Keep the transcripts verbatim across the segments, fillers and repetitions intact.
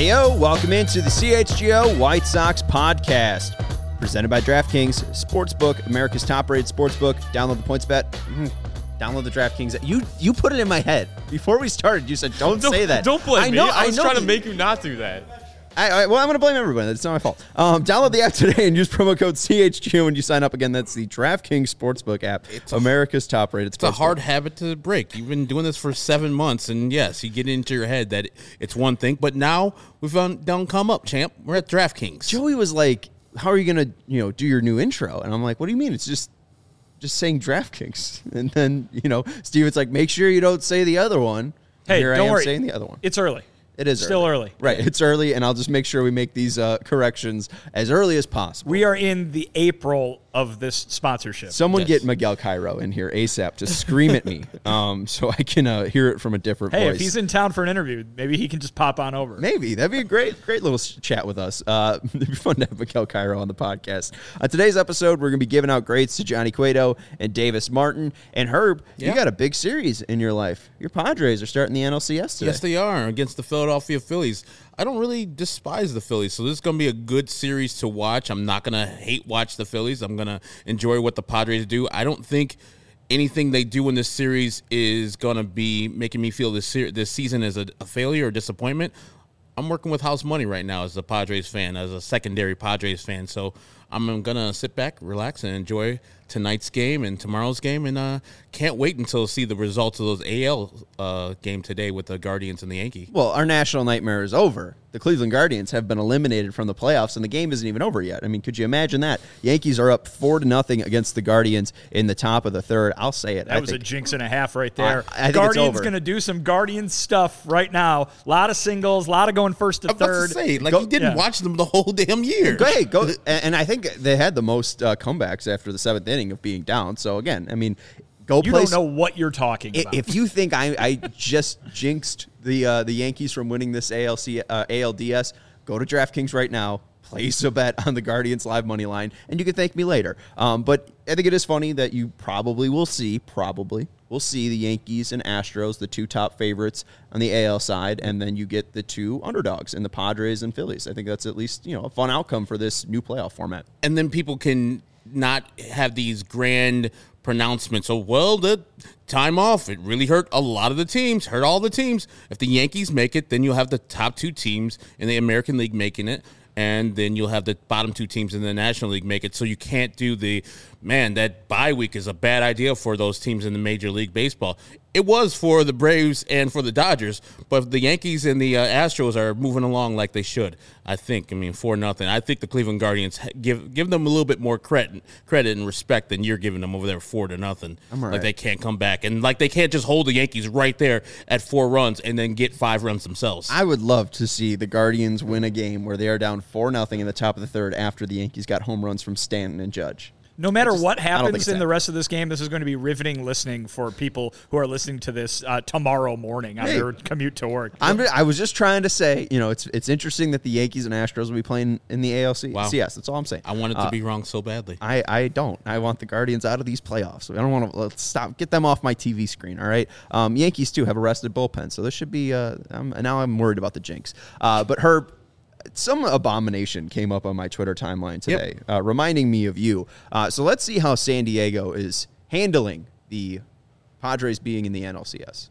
Heyo, welcome into the C H G O White Sox podcast, presented by DraftKings Sportsbook, America's top-rated sportsbook. Download the PointsBet. Mm-hmm. Download the DraftKings. You you put it in my head before we started. You said don't, don't say that. Don't blame I know, me. I was I know trying that, to make you not do that. I, I, well, I'm going to blame everybody. That's not my fault. Um, download the app today and use promo code C H G O when you sign up. Again, that's the DraftKings Sportsbook app, it's America's top-rated sportsbook. It's a hard habit to break. You've been doing this for seven months, and yes, you get into your head that it's one thing. But now we've done, done come up, champ. We're at DraftKings. Joey was like, "How are you going to, you know, do your new intro?" And I'm like, "What do you mean? It's just." Just saying DraftKings, and then you know, Steven's like, make sure you don't say the other one. Hey, Here don't I am worry. saying the other one. It's early. It is still early. early, right? It's early, and I'll just make sure we make these uh, corrections as early as possible. We are in the April of this sponsorship. Someone Yes. get Miguel Cairo in here ASAP to scream at me, um, so I can uh, hear it from a different Hey, voice. if he's in town for an interview, maybe he can just pop on over. Maybe. That'd be a great, great little chat with us. Uh, it'd be fun to have Miguel Cairo on the podcast. On today's episode, we're going to be giving out grades to Johnny Cueto and Davis Martin. And Herb, Yeah. you got a big series in your life. Your Padres are starting the N L C S today. Yes, they are against the Philadelphia Phillies. I don't really despise the Phillies, so this is going to be a good series to watch. I'm not going to hate watch the Phillies. I'm going to enjoy what the Padres do. I don't think anything they do in this series is going to be making me feel this ser- this season as a, a failure or disappointment. I'm working with house money right now as a Padres fan, as a secondary Padres fan, so I'm going to sit back, relax, and enjoy tonight's game and tomorrow's game, and uh, can't wait until see the results of those A L uh, game today with the Guardians and the Yankees. Well, our national nightmare is over. The Cleveland Guardians have been eliminated from the playoffs, and the game isn't even over yet. I mean, could you imagine that? Yankees are up four to nothing against the Guardians in the top of the third. I'll say it. That I was think, a jinx and a half right there. I, I think Guardians it's over. going to do some Guardians stuff right now. A lot of singles, a lot of going first to I'm about third. to say, like, Go- you didn't yeah. watch them the whole damn year. Go ahead, go. And and I think they had the most uh, comebacks after the seventh inning of being down. So, again, I mean, go You play. don't know what you're talking about. If you think I, I just jinxed the uh, the Yankees from winning this A L C, uh, A L D S, go to DraftKings right now, place a bet on the Guardians live money line, and you can thank me later. Um, but I think it is funny that you probably will see, probably will see the Yankees and Astros, the two top favorites on the A L side, and then you get the two underdogs in the Padres and Phillies. I think that's at least, you know, a fun outcome for this new playoff format. And then people can not have these grand pronouncements. So, well, the time off, it really hurt a lot of the teams, hurt all the teams. If the Yankees make it, then you'll have the top two teams in the American League making it, and then you'll have the bottom two teams in the National League make it. So you can't do the, man, that bye week is a bad idea for those teams in the Major League Baseball. It was for the Braves and for the Dodgers, but the Yankees and the uh, Astros are moving along like they should, I think. I mean, four nothing. I think the Cleveland Guardians give give them a little bit more credit credit and respect than you're giving them over there, four to nothing. I'm all like right. they can't come back, and like they can't just hold the Yankees right there at four runs and then get five runs themselves. I would love to see the Guardians win a game where they are down four nothing in the top of the third after the Yankees got home runs from Stanton and Judge. No matter just- what I don't think happens it's in the that. rest of this game, this is going to be riveting listening for people who are listening to this uh, tomorrow morning on Hey. their commute to work. I'm, I was just trying to say, you know, it's it's interesting that the Yankees and Astros will be playing in the A L C. Wow. C S. That's all I'm saying. I wanted to Uh, be wrong so badly. I, I don't. I want the Guardians out of these playoffs. I don't want to let's stop. Get them off my T V screen. All right. Um, Yankees too have a rested bullpen, so this should be. Uh, I'm, now I'm worried about the jinx. Uh, but Herb, some abomination came up on my Twitter timeline today, uh, reminding me of you. Uh, so let's see how San Diego is handling the Padres being in the N L C S.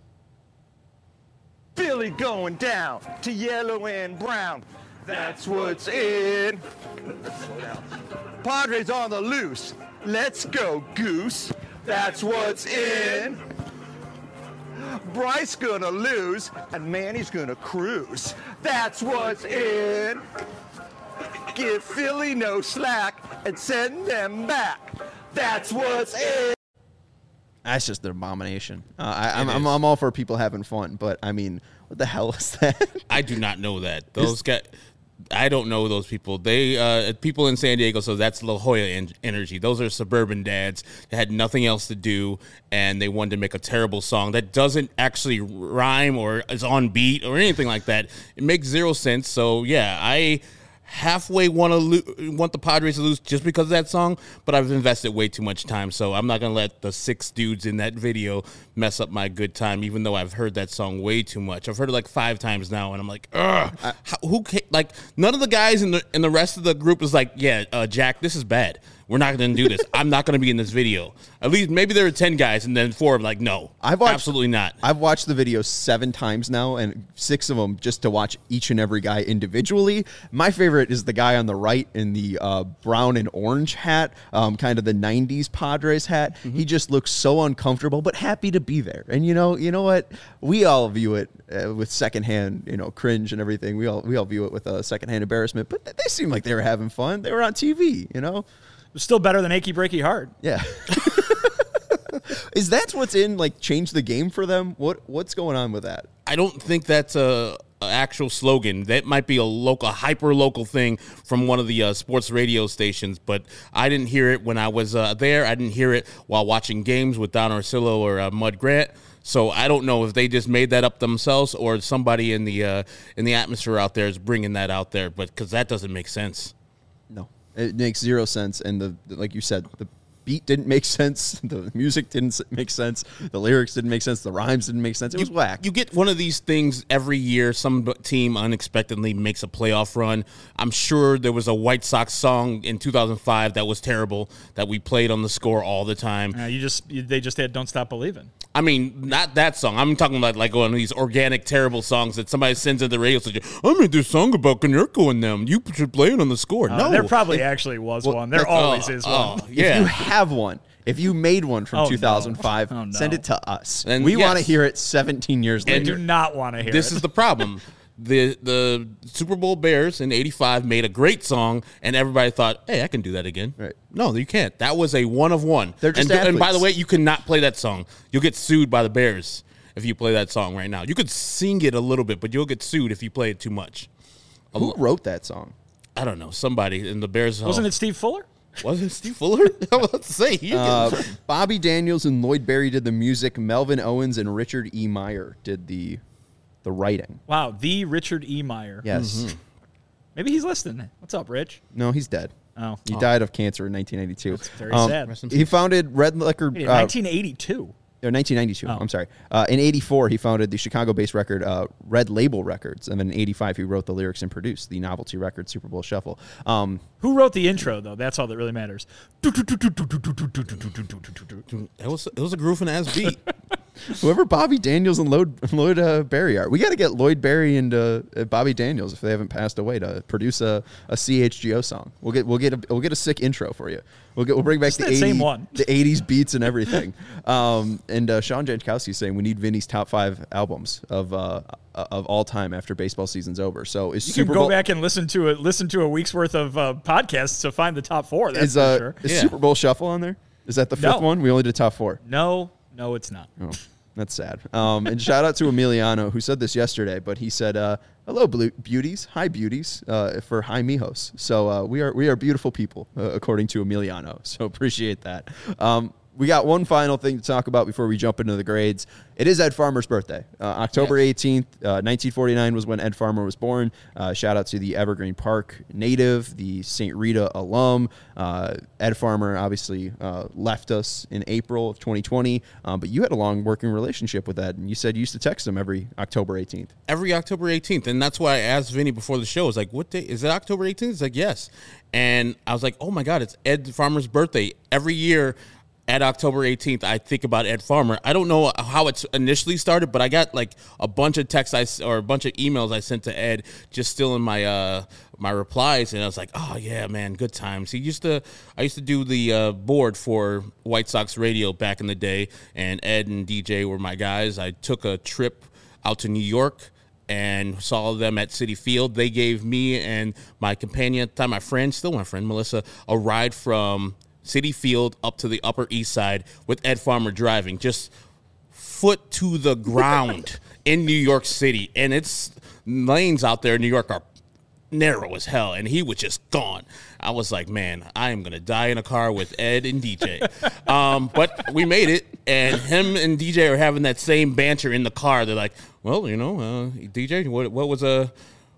Philly going down to yellow and brown. That's what's in. Padres on the loose. Let's go, Goose. That's what's in. Bryce gonna lose and Manny's gonna cruise. That's what's in. Give Philly no slack and send them back. That's what's in. That's just an abomination. Uh, I, I'm, It I'm is. I'm all for people having fun, but I mean, what the hell is that? I do not know that. Those guys, I don't know those people. They uh, people in San Diego, so that's La Jolla en- energy. Those are suburban dads that had nothing else to do, and they wanted to make a terrible song that doesn't actually rhyme or is on beat or anything like that. It makes zero sense. So yeah, I halfway want to lo- want the Padres to lose just because of that song, but I've invested way too much time, so I'm not going to let the six dudes in that video mess up my good time, even though I've heard that song way too much. I've heard it like five times now, and I'm like, ugh. I, How, who ca- like, none of the guys in the, in the rest of the group is like, yeah, uh, Jack, this is bad. We're not going to do this. I'm not going to be in this video. At least maybe there were ten guys, and then four of them like, no, I've watched, absolutely not. I've watched the video seven times now, and six of them just to watch each and every guy individually. My favorite is the guy on the right in the uh, brown and orange hat, um, kind of the nineties Padres hat. Mm-hmm. He just looks so uncomfortable, but happy to be there. And you know, you know what? We all view it uh, with secondhand, you know, cringe and everything. We all we all view it with a uh, secondhand embarrassment. But they seem like they were having fun. They were on T V, you know. Still better than Achy Breaky Heart. Yeah. Is that what's in, like, change the game for them? What What's going on with that? I don't think that's a, a actual slogan. That might be a local, hyper local thing from one of the uh, sports radio stations, but I didn't hear it when I was uh, there. I didn't hear it while watching games with Don Orsillo or uh, Mud Grant. So I don't know if they just made that up themselves or somebody in the uh, in the atmosphere out there is bringing that out there, but because that doesn't make sense. No, it makes zero sense. And the, the like you said, the beat didn't make sense. The music didn't make sense. The lyrics didn't make sense. The rhymes didn't make sense. It you, was whack. You get one of these things every year. Some team unexpectedly makes a playoff run. I'm sure there was a White Sox song in two thousand five that was terrible that we played on the score all the time. Uh, you just you, they just had "Don't Stop Believing." I mean, not that song. I'm talking about like one of these organic, terrible songs that somebody sends to the radio station. I made this song about Konerko and them. You should play it on the score. Uh, no, there probably it, actually was well, one. There always oh, is oh, one. Yeah. If you have one, if you made one from oh, two thousand five, no. oh, no. send it to us. And we yes. want to hear it seventeen years I later. do not want to hear this it. is the problem. The the Super Bowl Bears in eighty-five made a great song, and everybody thought, hey, I can do that again. Right. No, you can't. That was a one of one. They're just and, and by athletes. the way, you cannot play that song. You'll get sued by the Bears if you play that song right now. You could sing it a little bit, but you'll get sued if you play it too much. Who wrote that song? I don't know. Somebody in the Bears. Wasn't oh, it Steve Fuller? Was it Steve Fuller? I was about to say. He Uh, Bobby Daniels and Lloyd Berry did the music. Melvin Owens and Richard E. Meyer did the the writing. Wow, the Richard E. Meyer. Yes. Mm-hmm. Maybe he's listening. What's up, Rich? No, he's dead. Oh, He oh. died of cancer in nineteen ninety-two. That's very sad. He founded Red Liquor. Wait, Uh, nineteen eighty-two. No, nineteen ninety-two. Oh. I'm sorry. Uh, in eighty-four, he founded the Chicago-based record uh, Red Label Records, and then in eighty-five, he wrote the lyrics and produced the novelty record Super Bowl Shuffle. Um, Who wrote the intro, though? That's all that really matters. It was it was a grooving ass beat. whoever Bobby Daniels and Lloyd, Lloyd uh, Berry are, we got to get Lloyd Berry and uh, uh, Bobby Daniels if they haven't passed away to produce a, a C H G O song. We'll get we'll get a we'll get a sick intro for you. We'll get we'll bring back Just the that same eighties one. the eighties beats and everything. um, and uh, Sean Jankowski saying we need Vinny's top five albums of uh, of all time after baseball season's over. So is You Super can go Bowl back and listen to it. Listen to a week's worth of uh, podcasts to find the top four. That's is for uh, sure. is Yeah. Super Bowl Shuffle on there? Is that the fifth No. one? We only did top four. No, no, it's not. Oh, that's sad. Um, and shout out to Emiliano, who said this yesterday, but he said, uh, hello, blue- beauties. Hi, beauties, uh, for hi, mijos. So uh, we are we are beautiful people, uh, according to Emiliano. So appreciate that. Um, we got one final thing to talk about before we jump into the grades. It is Ed Farmer's birthday. Uh, October eighteenth, uh, nineteen forty-nine was when Ed Farmer was born. Uh, shout out to the Evergreen Park native, the Saint Rita alum. Uh, Ed Farmer obviously uh, left us in April of twenty twenty, um, but you had a long working relationship with Ed, and you said you used to text him every October eighteenth. Every October eighteenth. And that's why I asked Vinny before the show. I was like, what day? Is it October eighteenth? He's like, yes. And I was like, oh, my God, it's Ed Farmer's birthday. Every year at October eighteenth, I think about Ed Farmer. I don't know how it's initially started, but I got like a bunch of texts I, or a bunch of emails I sent to Ed just still in my uh, my replies. And I was like, oh, yeah, man, good times. He used to, I used to do the uh, board for White Sox radio back in the day, and Ed and D J were my guys. I took a trip out to New York and saw them at Citi Field. They gave me and my companion at the time, my friend, still my friend, Melissa, a ride from Citi Field up to the Upper East Side with Ed Farmer driving, just foot to the ground in New York City. And it's lanes out there in New York are narrow as hell, and he was just gone. I was like, man, I am going to die in a car with Ed and D J. um, but we made it, and him and D J are having that same banter in the car. They're like, well, you know, uh, D J, what, what was a...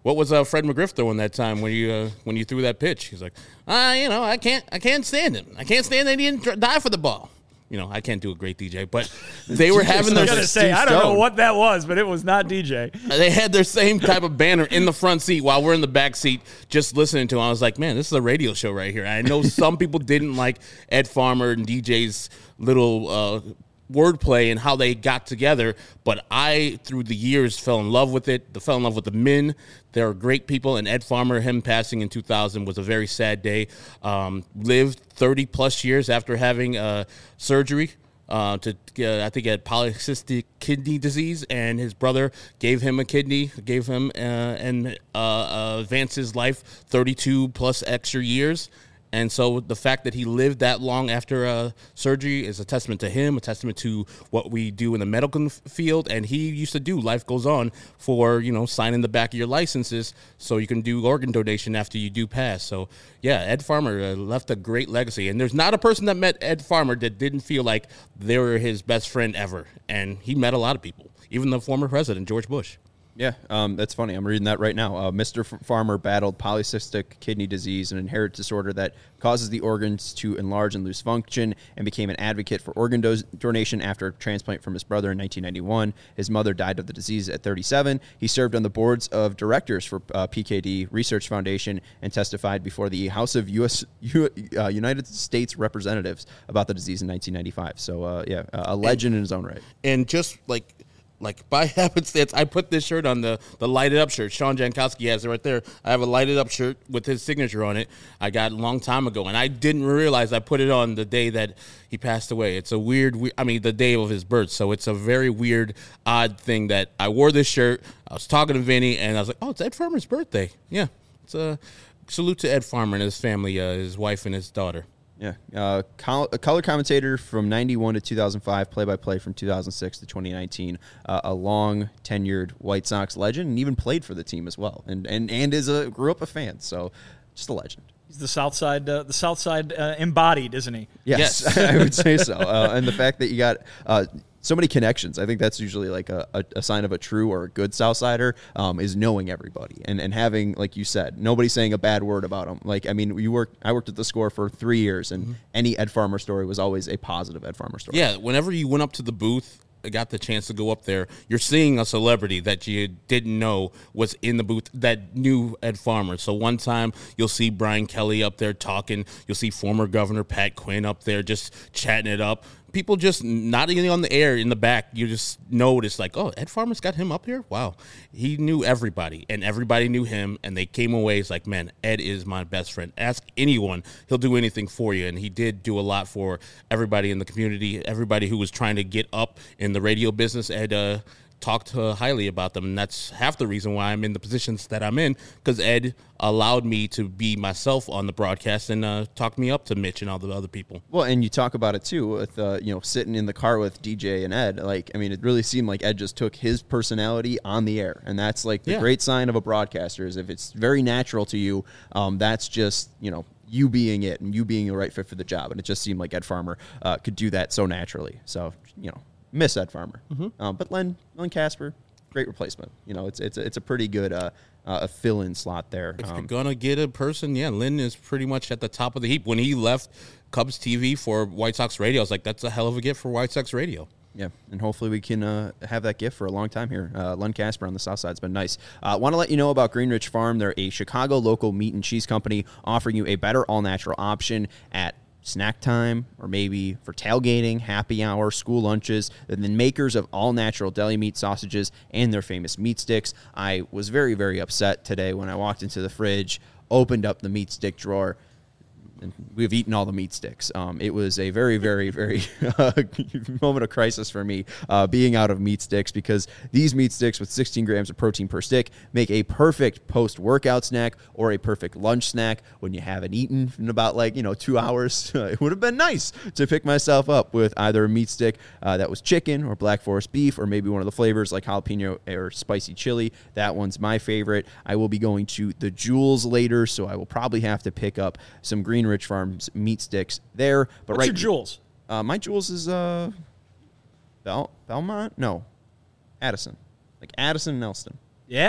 What was uh, Fred McGriff doing that time when you uh, when you threw that pitch? He's like, uh, you know, I can't I can't stand him. I can't stand that he didn't die for the ball. You know, I can't do a great D J, but they were having their. I was gonna say, I don't know what that was, but it was not D J. They had their same type of banner in the front seat while we're in the back seat just listening to him. I was like, man, this is a radio show right here. I know some people didn't like Ed Farmer and D J's little uh, wordplay and how they got together, but I, through the years, fell in love with it. I fell in love with the men. They're great people, and Ed Farmer, him passing in two thousand was a very sad day. Um, lived thirty plus years after having uh, surgery. Uh, to uh, I think he had polycystic kidney disease, and his brother gave him a kidney, gave him uh, and uh, uh, advanced his life thirty-two plus extra years. And so the fact that he lived that long after uh, surgery is a testament to him, a testament to what we do in the medical field. And he used to do Life Goes On for, you know, signing the back of your licenses so you can do organ donation after you do pass. So, yeah, Ed Farmer uh, left a great legacy. And there's not a person that met Ed Farmer that didn't feel like they were his best friend ever. And he met a lot of people, even the former president, George Bush. Yeah, um, that's funny. I'm reading that right now. Uh, Mister F- Farmer battled polycystic kidney disease, an inherited disorder that causes the organs to enlarge and lose function, and became an advocate for organ do- donation after a transplant from his brother in nineteen ninety-one. His mother died of the disease at thirty-seven. He served on the boards of directors for uh, P K D Research Foundation and testified before the House of U S U, uh, United States Representatives about the disease in nineteen ninety-five. So, uh, yeah, a legend and, in his own right. And just like... Like, by happenstance, I put this shirt on, the, the lighted up shirt. Sean Jankowski has it right there. I have a lighted up shirt with his signature on it. I got a long time ago, and I didn't realize I put it on the day that he passed away. It's a weird, we- I mean, the day of his birth. So it's a very weird, odd thing that I wore this shirt. I was talking to Vinny, and I was like, oh, it's Ed Farmer's birthday. Yeah. It's a salute to Ed Farmer and his family, uh, his wife and his daughter. Yeah, uh, col- a color commentator from ninety-one to two thousand five, play-by-play from two thousand six to twenty nineteen, uh, a long-tenured White Sox legend, and even played for the team as well, and and and is a grew up a fan, so just a legend. He's the South Side, uh, the South Side uh, embodied, isn't he? Yes, yes. I would say so. Uh, and the fact that you got uh, so many connections, I think that's usually like a, a, a sign of a true or a good Southsider, um, is knowing everybody and, and having, like you said, nobody saying a bad word about him. Like, I mean, you work. I worked at the Score for three years, and mm-hmm. any Ed Farmer story was always a positive Ed Farmer story. Yeah, whenever you went up to the booth, got the chance to go up there, you're seeing a celebrity that you didn't know was in the booth that knew Ed Farmer. So one time you'll see Brian Kelly up there talking. You'll see former Governor Pat Quinn up there just chatting it up. People just not even on the air in the back. You just notice like, oh, Ed Farmer's got him up here? Wow. He knew everybody, and everybody knew him, and they came away. It's like, man, Ed is my best friend. Ask anyone. He'll do anything for you, and he did do a lot for everybody in the community, everybody who was trying to get up in the radio business. Ed uh, talked uh, highly about them, and that's half the reason why I'm in the positions that I'm in, because Ed allowed me to be myself on the broadcast and uh, talk me up to Mitch and all the other people. Well, and you talk about it too with uh, you know, sitting in the car with D J and Ed. Like, I mean, it really seemed like Ed just took his personality on the air, and that's like the Yeah. great sign of a broadcaster is if it's very natural to you. Um, that's just, you know, you being it and you being the right fit for the job, and it just seemed like Ed Farmer uh, could do that so naturally. So, you know, miss Ed Farmer, mm-hmm. um, but Len Len Casper, great replacement. You know, it's it's it's a pretty good uh, uh, a fill-in slot there. If Um, you're gonna get a person, yeah, Lynn is pretty much at the top of the heap. When he left Cubs T V for White Sox Radio, I was like, that's a hell of a gift for White Sox Radio. Yeah, and hopefully we can uh, have that gift for a long time here. Uh, Len Casper on the south side has been nice. I uh, want to let you know about Greenridge Farm. They're a Chicago local meat and cheese company offering you a better all-natural option at snack time or maybe for tailgating, happy hour, school lunches. They're the makers of all-natural deli meat sausages and their famous meat sticks. I was very, very upset today when I walked into the fridge, opened up the meat stick drawer, and we've eaten all the meat sticks. Um, it was a very, very, very uh, moment of crisis for me uh, being out of meat sticks, because these meat sticks with sixteen grams of protein per stick make a perfect post-workout snack or a perfect lunch snack when you haven't eaten in about like, you know, two hours. It would have been nice to pick myself up with either a meat stick uh, that was chicken or Black Forest beef, or maybe one of the flavors like jalapeno or spicy chili. That one's my favorite. I will be going to the Jewels later, so I will probably have to pick up some Greenridge Farms meat sticks there. But What's right, your Jewels? Uh, my Jewels is uh, Bel- Belmont? No, Addison. Like Addison and Elston. Yeah.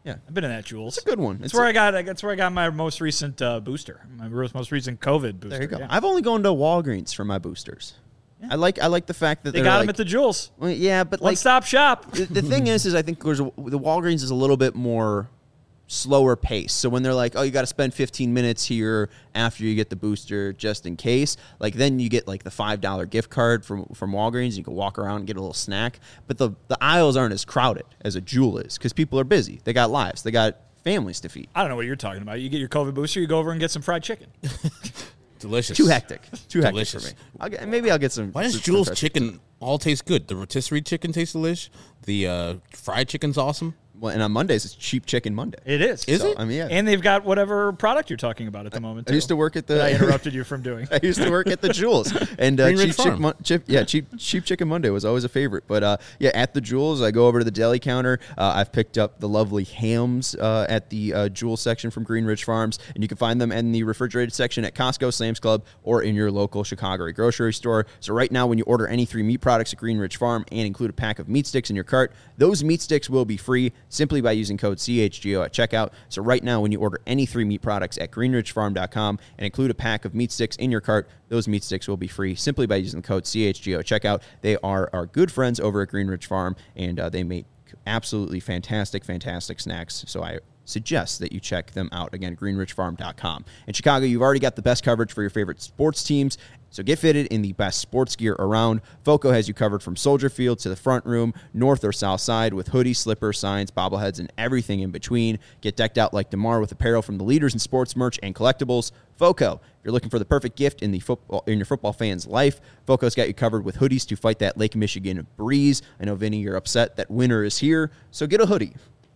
Yeah. I've been in that Jules. It's a good one. That's It's where a- I got. That's where I got my most recent uh, booster. My most recent COVID booster. There you go. Yeah. I've only gone to Walgreens for my boosters. I like I like the fact that They they're got like, them at the Jules. well, yeah, but One like stop shop. the, the thing is, is I think there's a, the Walgreens is a little bit more slower pace. So when they're like, oh, you got to spend fifteen minutes here after you get the booster just in case, like then you get like the five dollar gift card from from Walgreens. You can walk around and get a little snack. But the, the aisles aren't as crowded as a Jewel is because people are busy. They got lives. They got families to feed. I don't know what you're talking about. You get your COVID booster, you go over and get some fried chicken. Delicious. Too hectic. Too Delicious. hectic for me. I'll get, maybe I'll get some. Why does some Jules fresh- chicken all taste good? The rotisserie chicken tastes delish. The uh, fried chicken's awesome. Well, and on Mondays, it's Cheap Chicken Monday. It is. Is So, it? I mean, yeah. And they've got whatever product you're talking about at the moment. I used too, to work at the. that I interrupted you from doing. I used to work at the Jewels, and uh, Green Ridge cheap, chick Farm. Mon- chip, yeah, cheap cheap chicken Monday was always a favorite. But uh, yeah, at the Jewels, I go over to the deli counter. Uh, I've picked up the lovely hams uh, at the uh, Jewel section from Green Ridge Farms, and you can find them in the refrigerated section at Costco, Sam's Club, or in your local Chicago grocery store. So right now, when you order any three meat products at Green Ridge Farm and include a pack of meat sticks in your cart, those meat sticks will be free simply by using code C H G O at checkout. So right now, when you order any three meat products at green ridge farm dot com and include a pack of meat sticks in your cart, those meat sticks will be free simply by using the code C H G O at checkout. They are our good friends over at Green Ridge Farm, and uh, they make absolutely fantastic, fantastic snacks. So I suggest that you check them out. Again, green ridge farm dot com. In Chicago, you've already got the best coverage for your favorite sports teams. So get fitted in the best sports gear around. Foco has you covered from Soldier Field to the front room, north or south side, with hoodies, slippers, signs, bobbleheads, and everything in between. Get decked out like DeMar with apparel from the leaders in sports merch and collectibles. Foco, if you're looking for the perfect gift in the football in your football fan's life, Foco's got you covered with hoodies to fight that Lake Michigan breeze. I know, Vinny, you're upset that winter is here, so get a hoodie.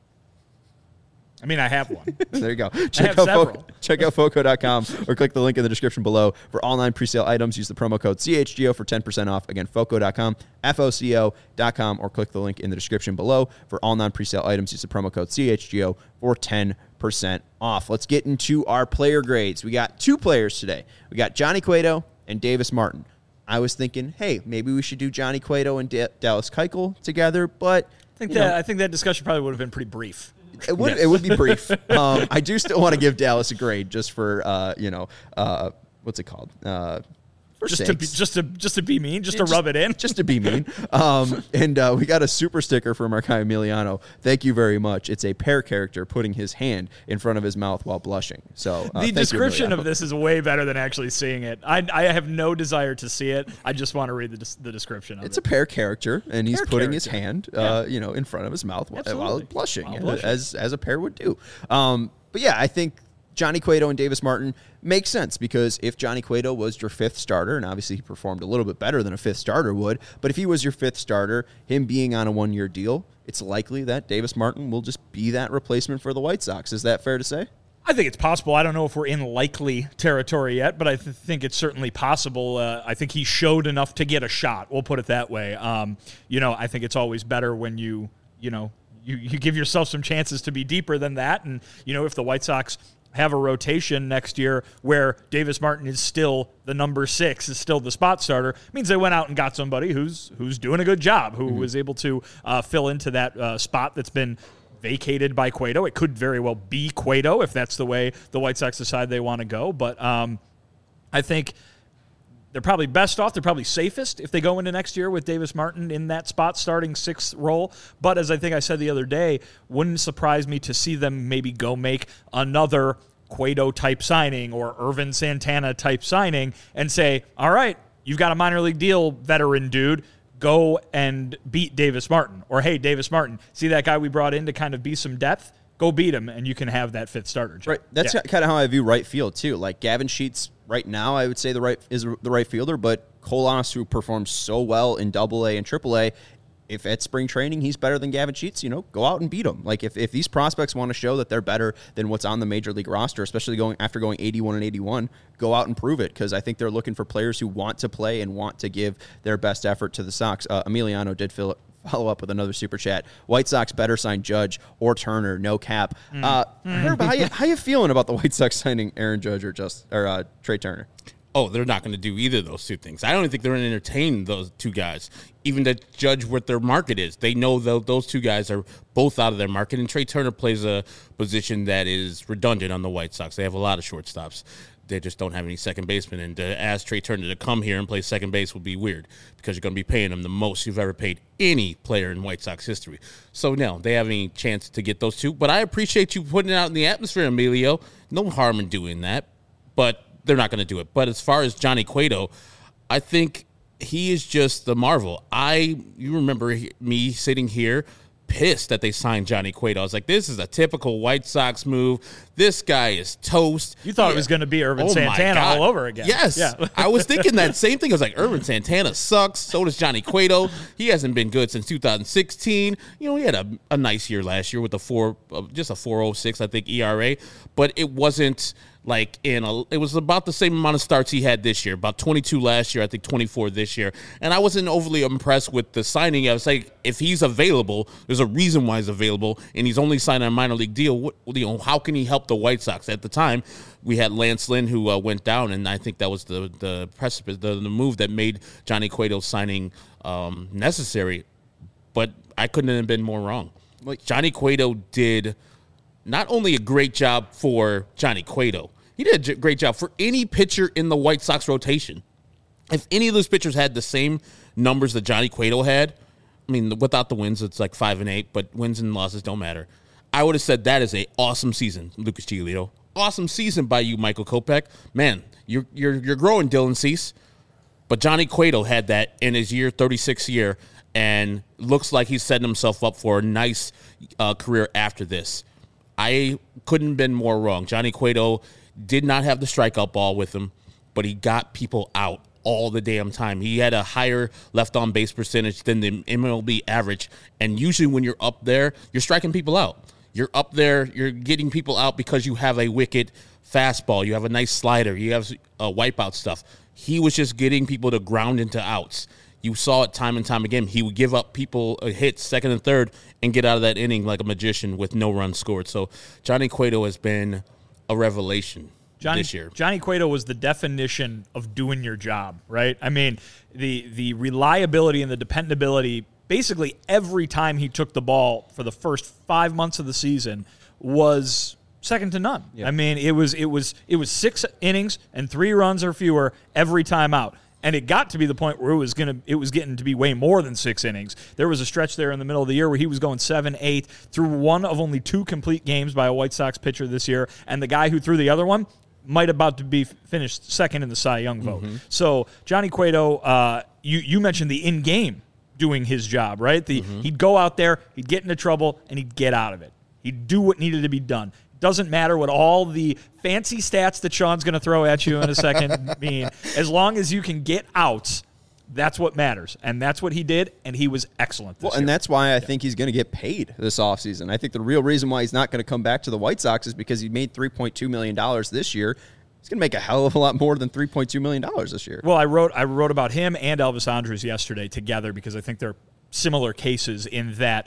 I mean, I have one. There you go. Check have out several. Foco, check out foco dot com or click the link in the description below. For all nine presale items, use the promo code C H G O for ten percent off. Again, foco dot com, F O C O dot com, or click the link in the description below. For all non presale items, use the promo code C H G O for ten percent off. Let's get into our player grades. We got two players today. We got Johnny Cueto and Davis Martin. I was thinking, hey, maybe we should do Johnny Cueto and Da- Dallas Keuchel together, but I think you that know, I think that discussion probably would have been pretty brief. It would it would be brief. Um, I do still want to give Dallas a grade just for uh, you know uh, what's it called? Uh, for Just to be, sakes. just to just to be mean, just Yeah, to rub it in. just to be mean. Um, and uh, we got a super sticker from our guy Emiliano. Thank you very much. It's a pear character putting his hand in front of his mouth while blushing. So uh, The thank you, description Emiliano. of this is way better than actually seeing it. I, I have no desire to see it. I just want to read the, des- the description of It's it. a pear character, and he's Pear putting his character. hand, uh, Yeah. you know, in front of his mouth while, while Absolutely. blushing, While yeah, blushing. as as a pear would do. Um, but yeah, I think Johnny Cueto and Davis Martin makes sense because if Johnny Cueto was your fifth starter, and obviously he performed a little bit better than a fifth starter would, but if he was your fifth starter, him being on a one-year deal, it's likely that Davis Martin will just be that replacement for the White Sox. Is that fair to say? I think it's possible. I don't know if we're in likely territory yet, but I th- think it's certainly possible. Uh, I think he showed enough to get a shot. We'll put it that way. Um, you know, I think it's always better when you, you know, you, you give yourself some chances to be deeper than that. And, you know, if the White Sox have a rotation next year where Davis Martin is still the number six, is still the spot starter, it means they went out and got somebody who's who's doing a good job, who mm-hmm. was able to uh, fill into that uh, spot that's been vacated by Cueto. It could very well be Cueto if that's the way the White Sox decide they want to go. But um, I think they're probably best off. They're probably safest if they go into next year with Davis Martin in that spot starting sixth role. But as I think I said the other day, wouldn't surprise me to see them maybe go make another Cueto-type signing or Irvin Santana-type signing and say, all right, you've got a minor league deal, veteran dude. Go and beat Davis Martin. Or, hey, Davis Martin, see that guy we brought in to kind of be some depth? Go beat him, and you can have that fifth starter job. Right. That's Yeah. kind of how I view right field, too. Like, Gavin Sheets, right now, I would say the right is the right fielder, but Colanos, who performs so well in Double A and Triple A, if at spring training he's better than Gavin Sheets, you know, go out and beat him. Like, if, if these prospects want to show that they're better than what's on the major league roster, especially going after going eighty-one and eighty-one, go out and prove it, because I think they're looking for players who want to play and want to give their best effort to the Sox. Uh, Emiliano did fill it. Follow up with another super chat. White Sox better sign Judge or Turner, no cap. Mm. Uh, Herb, how you how you feeling about the White Sox signing Aaron Judge or just or uh, Trey Turner? oh, they're not going to do either of those two things. I don't even think they're going to entertain those two guys, even to judge what their market is. They know that those two guys are both out of their market, and Trey Turner plays a position that is redundant on the White Sox. They have a lot of shortstops. They just don't have any second baseman, and to ask Trey Turner to come here and play second base would be weird because you're going to be paying him the most you've ever paid any player in White Sox history. So, no, they have any chance to get those two. But I appreciate you putting it out in the atmosphere, Emilio. No harm in doing that, but they're not going to do it. But as far as Johnny Cueto, I think he is just the marvel. I, you remember me sitting here pissed that they signed Johnny Cueto. I was like, this is a typical White Sox move. This guy is toast. You thought yeah. it was going to be Irvin oh Santana all over again. Yes. Yeah. I was thinking that same thing. I was like, Irvin Santana sucks. So does Johnny Cueto. He hasn't been good since two thousand sixteen. You know, he had a, a nice year last year with a four, uh, just a four oh six, I think, E R A. But it wasn't like in a, it was about the same amount of starts he had this year, about twenty-two last year, I think twenty-four this year. And I wasn't overly impressed with the signing. I was like, if he's available, there's a reason why he's available, and he's only signed a minor league deal. What, you know, how can he help the White Sox? At the time, we had Lance Lynn who uh, went down, and I think that was the the precipice, the, the move that made Johnny Cueto's signing um, necessary. But I couldn't have been more wrong. Like, Johnny Cueto did not only a great job for Johnny Cueto, he did a great job for any pitcher in the White Sox rotation. If any of those pitchers had the same numbers that Johnny Cueto had, I mean, without the wins, it's like five and eight, but wins and losses don't matter. I would have said that is a awesome season, Lucas Giolito. Awesome season by you, Michael Kopech. Man, you're you're you're growing, Dylan Cease. But Johnny Cueto had that in his year, thirty-sixth year, and looks like he's setting himself up for a nice uh, career after this. I couldn't have been more wrong. Johnny Cueto did not have the strikeout ball with him, but he got people out all the damn time. He had a higher left-on base percentage than the M L B average, and usually when you're up there, you're striking people out. You're up there, you're getting people out because you have a wicked fastball, you have a nice slider, you have uh, wipeout stuff. He was just getting people to ground into outs. You saw it time and time again. He would give up people a hit second and third and get out of that inning like a magician with no runs scored. So Johnny Cueto has been a revelation Johnny, this year. Johnny Cueto was the definition of doing your job, right? I mean, the the reliability and the dependability, basically every time he took the ball for the first five months of the season was second to none. Yeah. I mean, it was it was it was six innings and three runs or fewer every time out. And it got to be the point where it was gonna, it was getting to be way more than six innings. There was a stretch there in the middle of the year where he was going seven, eight, through one of only two complete games by a White Sox pitcher this year, and the guy who threw the other one might about to be finished second in the Cy Young vote. Mm-hmm. So Johnny Cueto, uh, you you mentioned the in-game doing his job, right? The mm-hmm. He'd go out there, he'd get into trouble, and he'd get out of it. He'd do what needed to be done. Doesn't matter what all the fancy stats that Sean's going to throw at you in a second mean. As long as you can get outs, that's what matters. And that's what he did, and he was excellent this well, year. And that's why I yeah. think he's going to get paid this offseason. I think the real reason why he's not going to come back to the White Sox is because he made three point two million dollars this year. He's going to make a hell of a lot more than three point two million dollars this year. Well, I wrote I wrote about him and Elvis Andrus yesterday together because I think they're similar cases in that,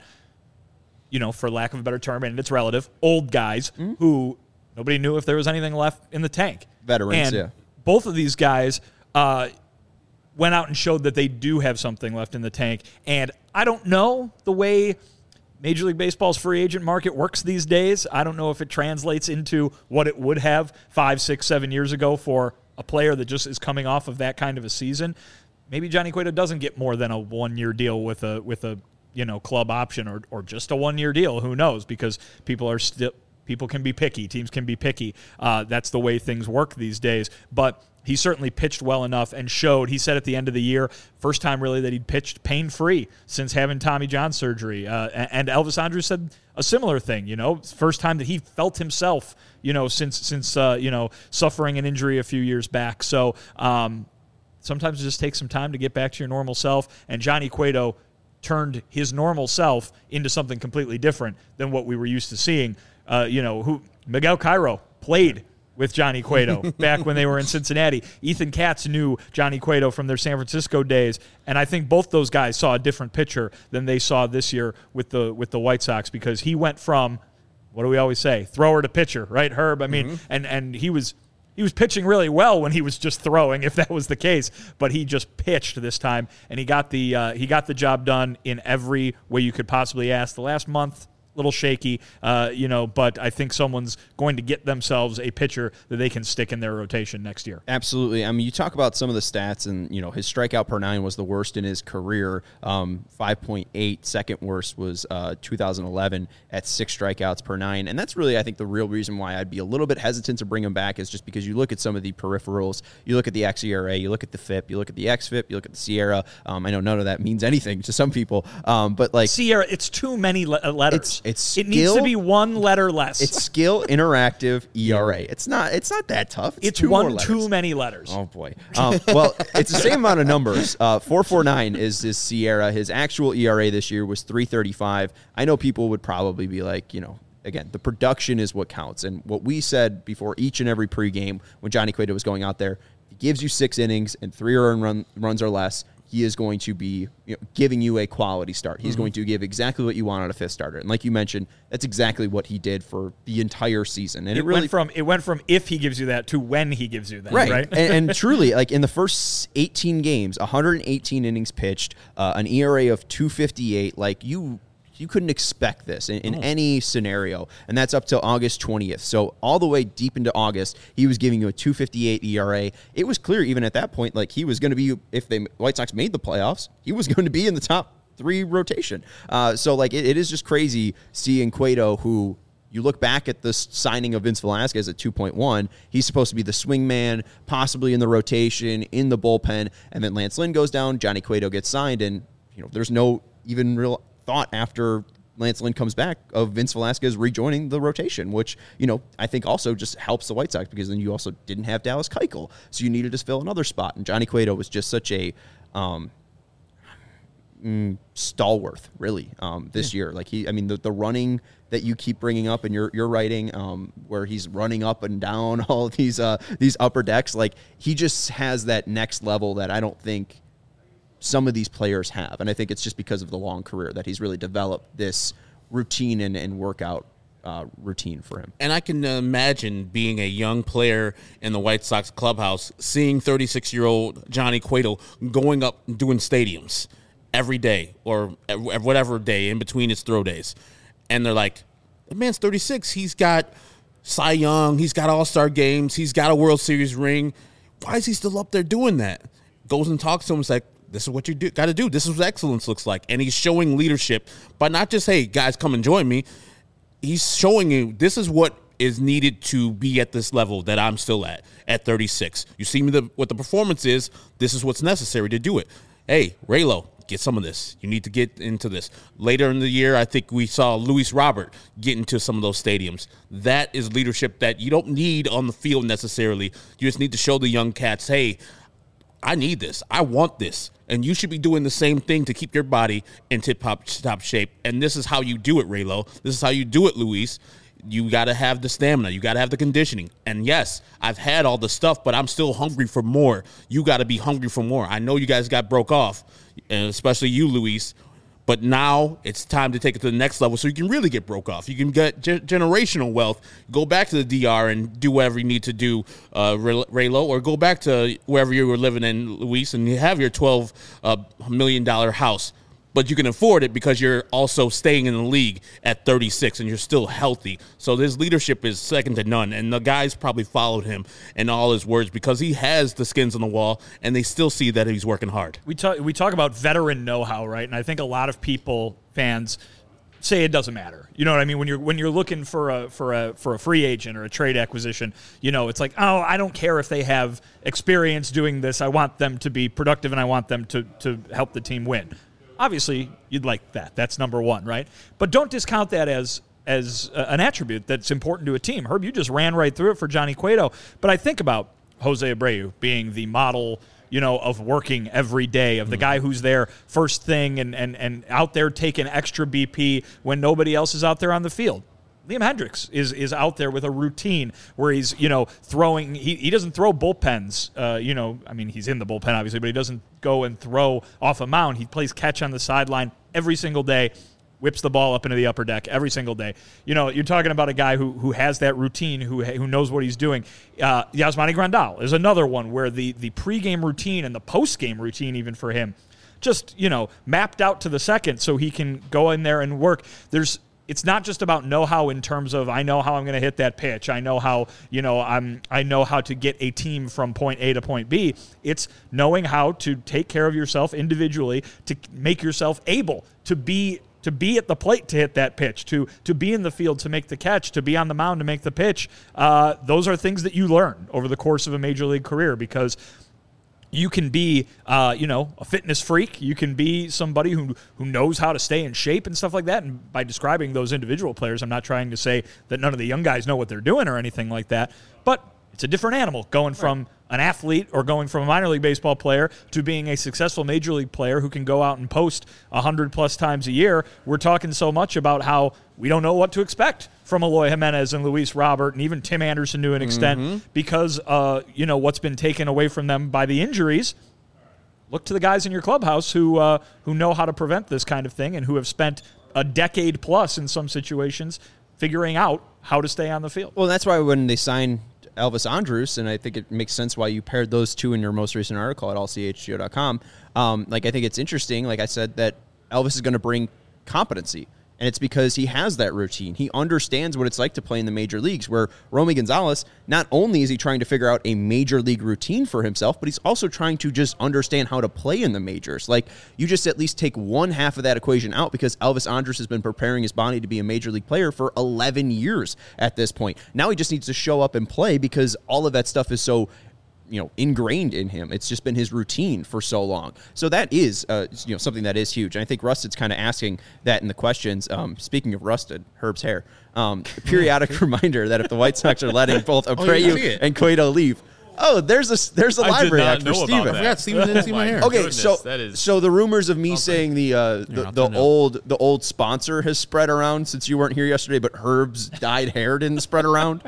you know, for lack of a better term, and it's relative, old guys mm-hmm. who nobody knew if there was anything left in the tank. Veterans, and yeah. both of these guys uh, went out and showed that they do have something left in the tank. And I don't know the way Major League Baseball's free agent market works these days. I don't know if it translates into what it would have five, six, seven years ago for a player that just is coming off of that kind of a season. Maybe Johnny Cueto doesn't get more than a one-year deal with a with a you know, club option or or just a one-year deal. Who knows? Because people are still people can be picky. Teams can be picky. Uh, that's the way things work these days. But he certainly pitched well enough and showed. He said at the end of the year, first time really that he'd pitched pain-free since having Tommy John surgery. Uh, and Elvis Andrus said a similar thing. You know, first time that he felt himself. You know, since since uh, you know suffering an injury a few years back. So um, sometimes it just takes some time to get back to your normal self. And Johnny Cueto turned his normal self into something completely different than what we were used to seeing. Uh, you know, who Miguel Cairo played with Johnny Cueto back when they were in Cincinnati. Ethan Katz knew Johnny Cueto from their San Francisco days, and I think both those guys saw a different picture than they saw this year with the with the White Sox because he went from, what do we always say, thrower to pitcher, right, Herb? I mean, mm-hmm. and and he was He was pitching really well when he was just throwing, if that was the case. But he just pitched this time, and he got the uh, he got the job done in every way you could possibly ask. The last month, a little shaky, uh, you know, but I think someone's going to get themselves a pitcher that they can stick in their rotation next year. Absolutely. I mean, you talk about some of the stats, and, you know, his strikeout per nine was the worst in his career. Um, five point eight. Second worst was uh, two thousand eleven at six strikeouts per nine. And that's really, I think, the real reason why I'd be a little bit hesitant to bring him back is just because you look at some of the peripherals, you look at the X E R A, you look at the F I P, you look at the X F I P, you look at the Sierra. Um, I know none of that means anything to some people, um, but like Sierra, it's too many le- letters. It's, it's it needs to be one letter less. It's skill, interactive, E R A. It's not. It's not that tough. It's, it's two one more letters. too many letters. Oh boy. Um, well, it's the same amount of numbers. Uh, four forty-nine is his Sierra. His actual E R A this year was three thirty-five. I know people would probably be like, you know, again, the production is what counts. And what we said before each and every pregame when Johnny Cueto was going out there, he gives you six innings and three earned run, runs or less. He is going to be, you know, giving you a quality start. He's mm-hmm. going to give exactly what you want out of a fifth starter. And like you mentioned, that's exactly what he did for the entire season. And it, it really went from it went from if he gives you that to when he gives you that. Right. right? and, and truly, like in the first eighteen games, one hundred eighteen innings pitched, uh, an E R A of two fifty-eight. Like you. You couldn't expect this in, in oh. any scenario, and that's up till August twentieth. So all the way deep into August, he was giving you a two fifty-eight E R A. It was clear even at that point, like he was going to be, if the White Sox made the playoffs, he was going to be in the top three rotation. Uh, so like it, it is just crazy seeing Cueto, who you look back at the signing of Vince Velasquez at two point one, he's supposed to be the swing man, possibly in the rotation, in the bullpen, and then Lance Lynn goes down, Johnny Cueto gets signed, and you know there's no even real thought after Lance Lynn comes back of Vince Velasquez rejoining the rotation, which, you know, I think also just helps the White Sox because then you also didn't have Dallas Keuchel, so you needed to fill another spot. And Johnny Cueto was just such a um, mm, stalwart, really, um, this yeah. year. Like he, I mean, the, the running that you keep bringing up in your your writing, um, where he's running up and down all of these uh, these upper decks, like he just has that next level that I don't think some of these players have. And I think it's just because of the long career that he's really developed this routine and, and workout uh, routine for him. And I can imagine being a young player in the White Sox clubhouse, seeing thirty-six-year-old Johnny Cueto going up and doing stadiums every day or whatever day in between his throw days. And they're like, the man's thirty-six. He's got Cy Young. He's got All-Star games. He's got a World Series ring. Why is he still up there doing that? Goes and talks to him. It's like, this is what you do, got to do. This is what excellence looks like. And he's showing leadership, but not just, hey, guys, come and join me. He's showing you this is what is needed to be at this level that I'm still at, at thirty-six. You see me the, what the performance is. This is what's necessary to do it. Hey, Raylo, get some of this. You need to get into this. Later in the year, I think we saw Luis Robert get into some of those stadiums. That is leadership that you don't need on the field necessarily. You just need to show the young cats, hey, I need this. I want this. And you should be doing the same thing to keep your body in tip-top top shape. And this is how you do it, Raylo. This is how you do it, Luis. You got to have the stamina. You got to have the conditioning. And, yes, I've had all the stuff, but I'm still hungry for more. You got to be hungry for more. I know you guys got broke off, and especially you, Luis. But now it's time to take it to the next level so you can really get broke off. You can get ge- generational wealth, go back to the D R and do whatever you need to do, uh, Raylo, or go back to wherever you were living in, Luis, and you have your twelve million dollars house. But you can afford it because you're also staying in the league at thirty-six and you're still healthy. So his leadership is second to none. And the guys probably followed him in all his words because he has the skins on the wall and they still see that he's working hard. We talk, we talk about veteran know-how, right? And I think a lot of people, fans, say it doesn't matter. You know what I mean? When you're when you're looking for a for a for a free agent or a trade acquisition, you know, it's like, oh, I don't care if they have experience doing this. I want them to be productive and I want them to to help the team win. Obviously, you'd like that. That's number one, right? But don't discount that as as uh, an attribute that's important to a team. Herb, you just ran right through it for Johnny Cueto. But I think about Jose Abreu being the model, you know, of working every day, of the guy who's there first thing and, and, and out there taking extra B P when nobody else is out there on the field. Liam Hendriks is is out there with a routine where he's, you know, throwing. He, he doesn't throw bullpens. Uh, you know, I mean, he's in the bullpen, obviously, but he doesn't go and throw off a mound. He plays catch on the sideline every single day. whips the ball up into the upper deck every single day. You know, you're talking about a guy who who has that routine, who who knows what he's doing. Uh, Yasmani Grandal is another one where the, the pregame routine and the postgame routine, even for him, just, you know, mapped out to the second so he can go in there and work. There's It's not just about know-how in terms of I know how I'm going to hit that pitch. I know how, you know, I'm I know how to get a team from point A to point B. It's knowing how to take care of yourself individually to make yourself able to be to be at the plate to hit that pitch, to to be in the field to make the catch, to be on the mound to make the pitch. Uh, those are things that you learn over the course of a major league career, because you can be, uh, you know, a fitness freak. You can be somebody who who knows how to stay in shape and stuff like that. And by describing those individual players, I'm not trying to say that none of the young guys know what they're doing or anything like that. But it's a different animal going from right. an athlete or going from a minor league baseball player to being a successful major league player who can go out and post one hundred plus times a year. We're talking so much about how we don't know what to expect from Eloy Jimenez and Luis Robert and even Tim Anderson to an extent mm-hmm. because, uh, you know, what's been taken away from them by the injuries. Look to the guys in your clubhouse who uh, who know how to prevent this kind of thing and who have spent a decade plus in some situations figuring out how to stay on the field. Well, that's why when they sign Elvis Andrus, and I think it makes sense why you paired those two in your most recent article at all c h g o dot com. Um, like, I think it's interesting, like I said, that Elvis is going to bring competency. And it's because he has that routine. He understands what it's like to play in the major leagues, where Romy Gonzalez, not only is he trying to figure out a major league routine for himself, but he's also trying to just understand how to play in the majors. Like, you just at least take one half of that equation out, because Elvis Andrus has been preparing his body to be a major league player for eleven years at this point. Now he just needs to show up and play, because all of that stuff is so, you know, ingrained in him. It's just been his routine for so long. So that is, uh, you know, something that is huge. And I think Rusted's kind of asking that in the questions. Um, speaking of Rusted, Herb's hair, um, periodic reminder that if the White Sox are letting both Abreu oh, and Cueto leave, oh, there's a there's a library hack for Steven. I forgot Steven didn't see my hair. Okay, Goodness, so so the rumors of me something. saying the uh, the, the old the old sponsor has spread around since you weren't here yesterday, but Herb's dyed hair didn't spread around.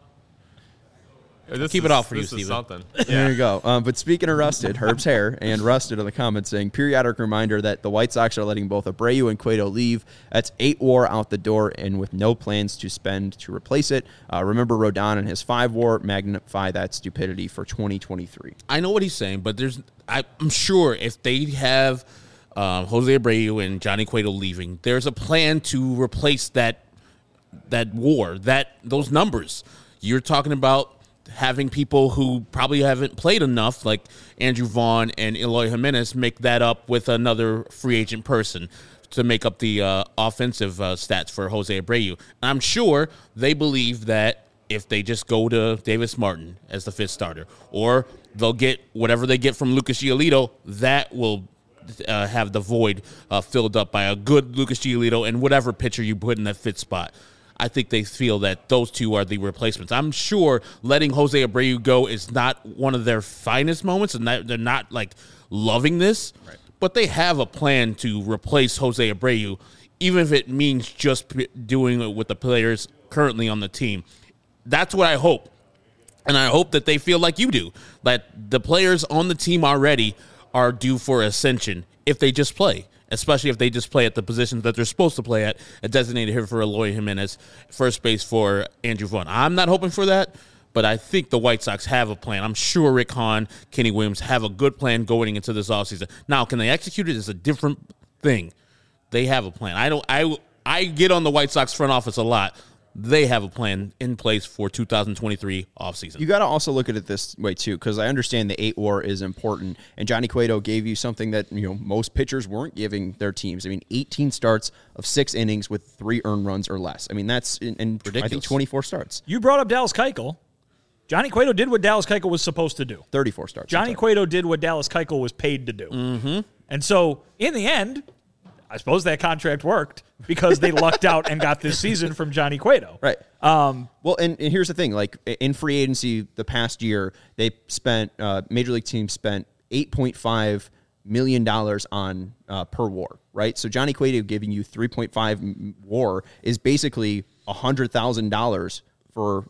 This Keep is, it off for you, Steven. Something. Yeah. There you go. Um, but speaking of Rusted, Herb's hair and Rusted in the comments saying, periodic reminder that the White Sox are letting both Abreu and Cueto leave. That's eight war out the door, and with no plans to spend to replace it. Uh, remember Rodon and his five war. Magnify that stupidity for twenty twenty-three. I know what he's saying, but there's I, I'm sure if they have um, Jose Abreu and Johnny Cueto leaving, there's a plan to replace that that war, that those numbers. You're talking about having people who probably haven't played enough, like Andrew Vaughn and Eloy Jimenez, make that up with another free agent person to make up the uh, offensive uh, stats for Jose Abreu. I'm sure they believe that if they just go to Davis Martin as the fifth starter, or they'll get whatever they get from Lucas Giolito, that will uh, have the void uh, filled up by a good Lucas Giolito and whatever pitcher you put in that fifth spot. I think they feel that those two are the replacements. I'm sure letting Jose Abreu go is not one of their finest moments, and they're not, like, loving this. Right. But they have a plan to replace Jose Abreu, even if it means just doing it with the players currently on the team. That's what I hope. And I hope that they feel like you do, that the players on the team already are due for ascension if they just play. Especially if they just play at the positions that they're supposed to play at, a designated hitter for Eloy Jimenez, first base for Andrew Vaughn. I'm not hoping for that, but I think the White Sox have a plan. I'm sure Rick Hahn, Kenny Williams have a good plan going into this offseason. Now, can they execute it is a different thing. They have a plan. I don't. I I get on the White Sox front office a lot. They have a plan in place for two thousand twenty-three offseason. You got to also look at it this way, too, because I understand the eight war is important, and Johnny Cueto gave you something that, you know, most pitchers weren't giving their teams. I mean, eighteen starts of six innings with three earned runs or less. I mean, that's in, in I think twenty-four starts. You brought up Dallas Keuchel. Johnny Cueto did what Dallas Keuchel was supposed to do. thirty-four starts. Johnny Cueto did what Dallas Keuchel was paid to do. Mm-hmm. And so, in the end, I suppose that contract worked because they lucked out and got this season from Johnny Cueto. Right. Um, well, and, and here's the thing. Like, in free agency the past year, they spent, uh, Major League teams spent eight point five million dollars on uh, per war, right? So Johnny Cueto giving you three point five war is basically one hundred thousand dollars for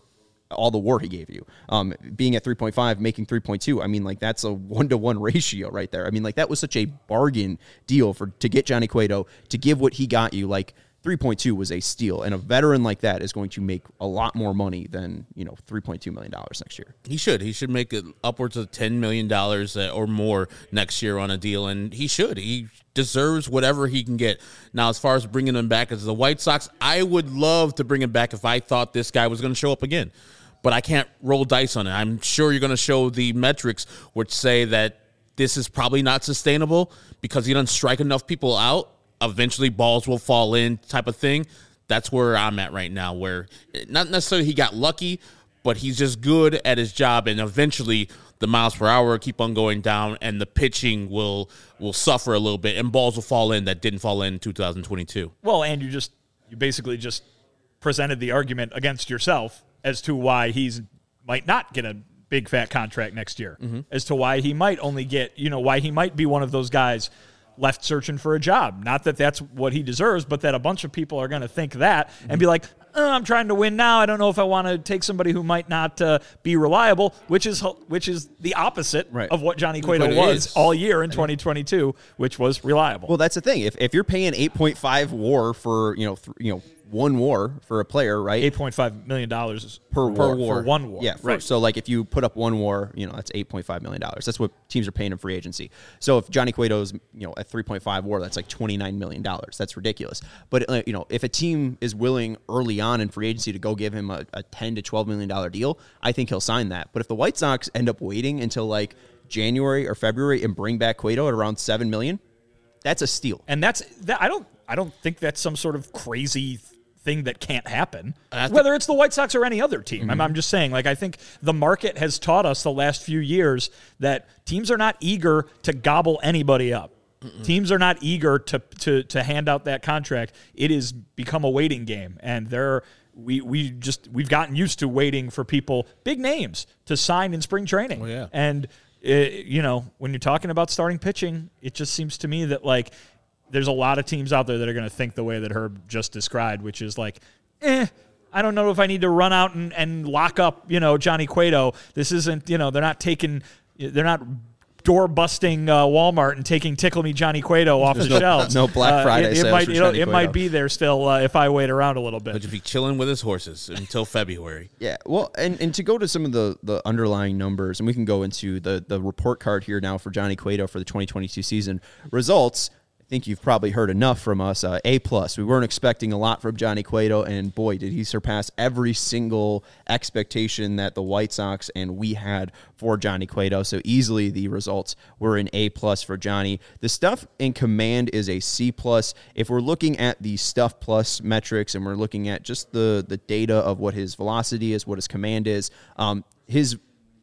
all the war he gave you. Um, being at three point five, making three point two, I mean, like, that's a one-to-one ratio right there. I mean, like, that was such a bargain deal for to get Johnny Cueto, to give what he got you. Like, three point two was a steal, and a veteran like that is going to make a lot more money than, you know, three point two million dollars next year. He should. He should make it upwards of ten million dollars or more next year on a deal, and he should. He deserves whatever he can get. Now, as far as bringing him back as the White Sox, I would love to bring him back if I thought this guy was going to show up again. But I can't roll dice on it. I'm sure you're going to show the metrics which say that this is probably not sustainable because he doesn't strike enough people out. Eventually balls will fall in type of thing. That's where I'm at right now, where not necessarily he got lucky, but he's just good at his job, and eventually the miles per hour keep on going down, and the pitching will will suffer a little bit, and balls will fall in that didn't fall in in two thousand twenty-two. Well, and you just you basically just presented the argument against yourself as to why he's might not get a big fat contract next year, mm-hmm. as to why he might only get, you know, why he might be one of those guys left searching for a job. Not that that's what he deserves, but that a bunch of people are going to think that mm-hmm. and be like, oh, I'm trying to win now. I don't know if I want to take somebody who might not uh, be reliable, which is which is the opposite right. of what Johnny Cueto what was is. all year in twenty twenty-two, which was reliable. Well, that's the thing. If if you're paying eight point five WAR for, you know, th- you know, one WAR for a player, right? eight point five million dollars per, per WAR. WAR. For one WAR. Yeah, for, right. So, like, if you put up one WAR, you know, that's eight point five million dollars. That's what teams are paying in free agency. So, if Johnny Cueto's, you know, at three point five WAR, that's like twenty-nine million dollars. That's ridiculous. But, uh, you know, if a team is willing early on in free agency to go give him a, a ten to twelve million dollars deal, I think he'll sign that. But if the White Sox end up waiting until, like, January or February and bring back Cueto at around seven million dollars, that's a steal. And that's, that, I don't, I don't think that's some sort of crazy thing that can't happen, th- whether it's the White Sox or any other team. Mm-hmm. I'm, I'm just saying, like, I think the market has taught us the last few years that teams are not eager to gobble anybody up. Mm-mm. Teams are not eager to, to to hand out that contract. It has become a waiting game, and there we we just we've gotten used to waiting for people, big names, to sign in spring training. Oh, yeah. And it, you know, when you're talking about starting pitching, it just seems to me that, like, there's a lot of teams out there that are going to think the way that Herb just described, which is like, eh, I don't know if I need to run out and, and lock up, you know, Johnny Cueto. This isn't, you know, they're not taking, they're not door busting uh, Walmart and taking Tickle Me Johnny Cueto off There's the no, shelves. No Black Friday uh, it, sales it might, for you know, Johnny it Cueto. might be there still uh, if I wait around a little bit. But you'd be chilling with his horses until February. Yeah, well, and, and to go to some of the, the underlying numbers, and we can go into the, the report card here now for Johnny Cueto for the twenty twenty-two season results. I think you've probably heard enough from us. Uh, A plus. We weren't expecting a lot from Johnny Cueto, and boy, did he surpass every single expectation that the White Sox and we had for Johnny Cueto. So easily the results were an A plus for Johnny. The stuff in command is a C plus. If we're looking at the stuff plus metrics and we're looking at just the the data of what his velocity is, what his command is, um, his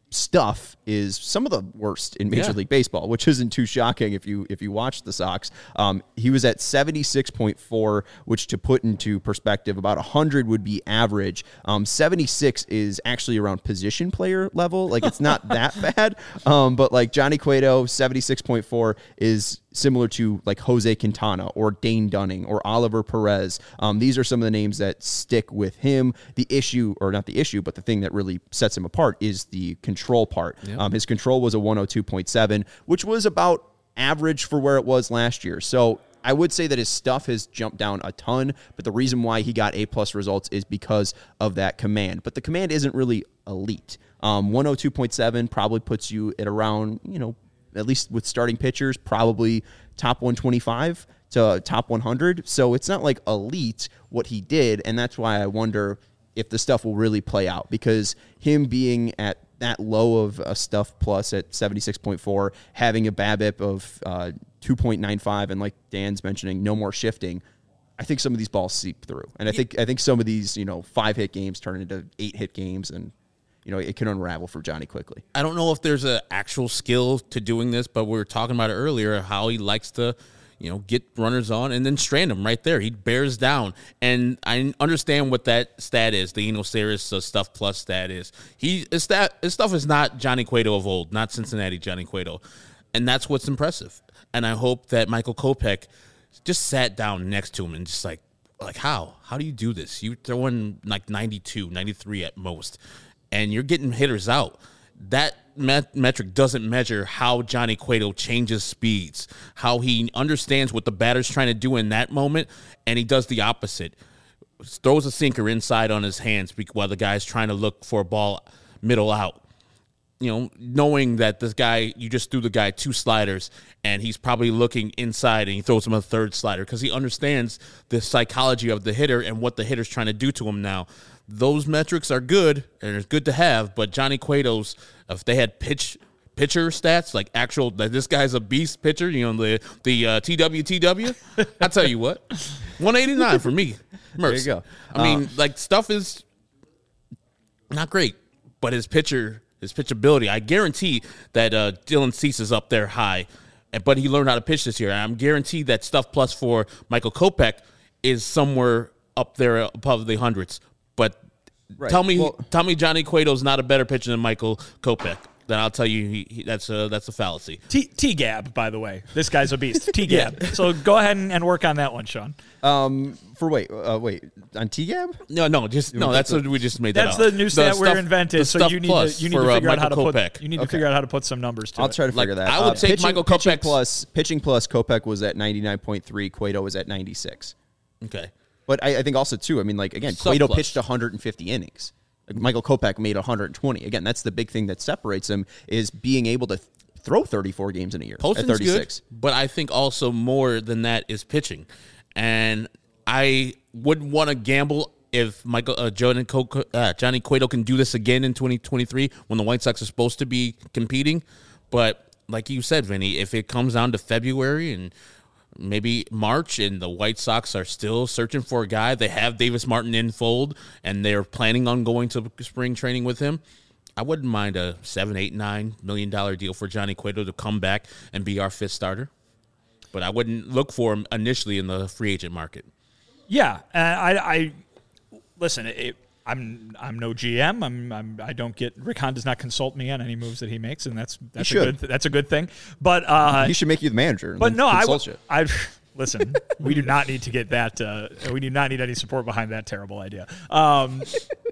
stuff is some of the worst in Major yeah. League Baseball, which isn't too shocking if you if you watch the Sox. Um, he was at seventy-six point four, which, to put into perspective, about one hundred would be average. Um, seventy-six is actually around position player level. Like, it's not that bad. Um, but like Johnny Cueto, seventy-six point four is similar to like Jose Quintana or Dane Dunning or Oliver Perez. Um, these are some of the names that stick with him. The issue, or not the issue, but the thing that really sets him apart is the control part. Yep. Um, his control was a one oh two point seven, which was about average for where it was last year. So I would say that his stuff has jumped down a ton, but the reason why he got A-plus results is because of that command. But the command isn't really elite. Um, one oh two point seven probably puts you at around, you know, at least with starting pitchers, probably top one twenty-five to top one hundred. So it's not like elite what he did, and that's why I wonder if the stuff will really play out, because him being at that low of a stuff plus at seventy-six point four, having a BABIP of uh, two point nine five, and like Dan's mentioning, no more shifting, I think some of these balls seep through. And I think I think some of these, you know, five-hit games turn into eight-hit games, and you know, it can unravel for Johnny quickly. I don't know if there's an actual skill to doing this, but we were talking about it earlier, how he likes to, you know, get runners on and then strand them right there. He bears down. And I understand what that stat is, the Enoceris uh, stuff plus stat is. He his, stat, his stuff is not Johnny Cueto of old, not Cincinnati Johnny Cueto. And that's what's impressive. And I hope that Michael Kopech just sat down next to him and just like, like how? How do you do this? You throw in like ninety-two, ninety-three at most. and you're getting hitters out. That met- metric doesn't measure how Johnny Cueto changes speeds, how he understands what the batter's trying to do in that moment, and he does the opposite. Throws a sinker inside on his hands while the guy's trying to look for a ball middle out. You know, knowing that this guy, you just threw the guy two sliders, and he's probably looking inside, and he throws him a third slider because he understands the psychology of the hitter and what the hitter's trying to do to him now. Those metrics are good, and it's good to have, but Johnny Cueto's, if they had pitch pitcher stats, like actual, that this guy's a beast pitcher, you know, the the uh, T W T W, I'll tell you what, one eighty-nine for me. Merce. There you go. I mean, Uh, like, stuff is not great, but his pitcher, his pitchability, I guarantee that uh, Dylan Cease is up there high, but he learned how to pitch this year. I'm guaranteed that stuff plus for Michael Kopech is somewhere up there above the hundreds. But Right. tell me, Well- tell me, Johnny Cueto's not a better pitcher than Michael Kopech. Then I'll tell you he, he, that's a that's a fallacy. T- T-Gab, by the way. This guy's a beast. T-Gab. So go ahead and, and work on that one, Sean. Um, for wait, uh, wait on T G A B? No, no, just no. That's what we just made. That That's up. the new stat we stuff- invented. the So stuff you need plus to you need for, to uh, figure out how to Michael put Kopech. you need to Okay. figure out how to put some numbers to I'll it. try to Like, figure that. I would Uh, take pitching, Michael pitching Kopech's- plus pitching plus Kopech was at ninety-nine point three. Cueto was at ninety-six. Okay. But I, I think also too. I mean, like again, Surplus. Cueto pitched one hundred fifty innings. Like, Michael Kopech made one hundred twenty. Again, that's the big thing that separates him is being able to th- throw thirty-four games in a year at Posting's thirty-six. good, but I think also more than that is pitching, and I wouldn't want to gamble if Michael uh, Johnny, Co- uh, Johnny Cueto can do this again in twenty twenty-three when the White Sox are supposed to be competing. But like you said, Vinny, if it comes down to February and maybe March and the White Sox are still searching for a guy, they have Davis Martin in fold and they're planning on going to spring training with him, I wouldn't mind a seven, eight, nine million dollar deal for Johnny Cueto to come back and be our fifth starter. But I wouldn't look for him initially in the free agent market. Yeah, uh, I, I listen. It, I'm I'm no G M. I'm, I'm I don't get Rick Hahn does not consult me on any moves that he makes, and that's that's a should. good that's a good thing. But uh, He should make you the manager. and but then no, I consult would you. I listen. We do not need to get that. Uh, we do not need any support behind that terrible idea. Um,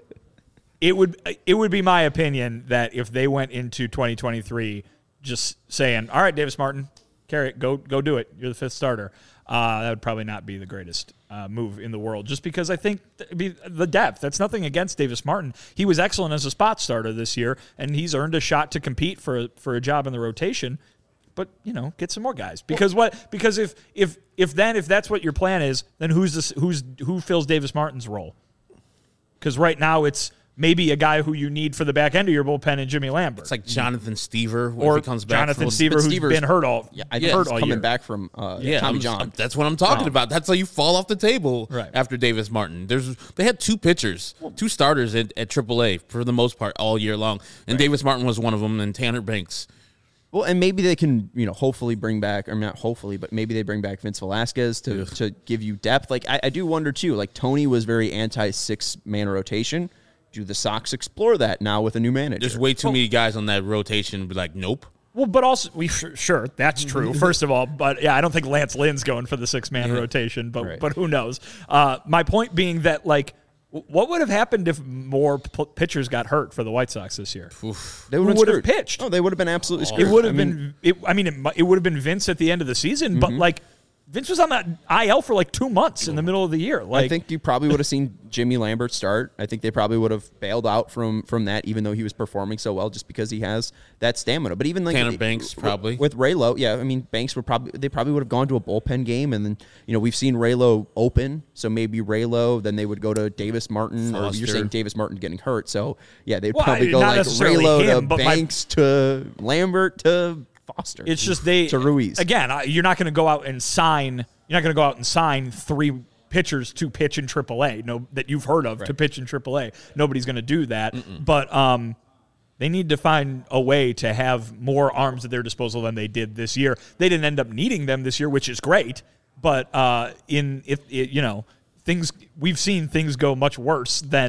it would it would be my opinion that if they went into twenty twenty-three just saying, all right, Davis Martin, carry it, go go do it. You're the fifth starter. Uh, that would probably not be the greatest uh, move in the world, just because I think th- be the depth. That's nothing against Davis Martin. He was excellent as a spot starter this year, and he's earned a shot to compete for for a job in the rotation. But you know, get some more guys because what? Because if if if then if that's what your plan is, then who's this? Who's who fills Davis Martin's role? Because right now it's maybe a guy who you need for the back end of your bullpen and Jimmy Lambert. It's like Jonathan Stever or if he comes back Jonathan from, Stever, but who's Stever's- been hurt all Yeah, I Yeah, think hurt he's all coming year. back from uh, Yeah, Tommy I'm- John. That's what I'm talking Oh. about. That's how you fall off the table Right. after Davis Martin. There's they had two pitchers, two starters at, at triple A for the most part all year long, and Davis Martin was one of them, and Tanner Banks. Well, and maybe they can, you know, hopefully bring back, or not hopefully, but maybe they bring back Vince Velasquez to, to give you depth. Like, I, I do wonder, too, like, Tony was very anti-six-man rotation. Do the Sox explore that now with a new manager? There's way too many guys on that rotation. Be like, nope. Well, but also we sure that's true. First of all, but yeah, I don't think Lance Lynn's going for the six man rotation. But Right. but who knows? Uh, my point being that like, what would have happened if more p- pitchers got hurt for the White Sox this year? They Who would've would have screwed. pitched? Oh, they would have been absolutely screwed. It would have I mean, been. It, I mean, it, mu- it would have been Vince at the end of the season. But like, Vince was on that I L for like two months in the middle of the year. Like, I think you probably would have seen Jimmy Lambert start. I think they probably would have bailed out from from that, even though he was performing so well, just because he has that stamina. But even like Tanner Banks, with- probably. with Raylo, yeah. I mean, Banks would probably they probably would have gone to a bullpen game, and then you know we've seen Raylo open, so maybe Raylo. Then they would go to Davis Martin, or Foster. you're saying Davis Martin getting hurt, so yeah, they'd Well, probably I- go not like necessarily Raylo him, to but my- Banks to Lambert to Foster. it's just they to Ruiz again. I- You're not going to go out and sign. You're not going to go out and sign three pitchers to pitch in triple A. No, that you've heard of to pitch in triple A. Nobody's going to do that. But um, they need to find a way to have more arms at their disposal than they did this year. They didn't end up needing them this year, which is great. But uh, in if it, you know things, we've seen things go much worse than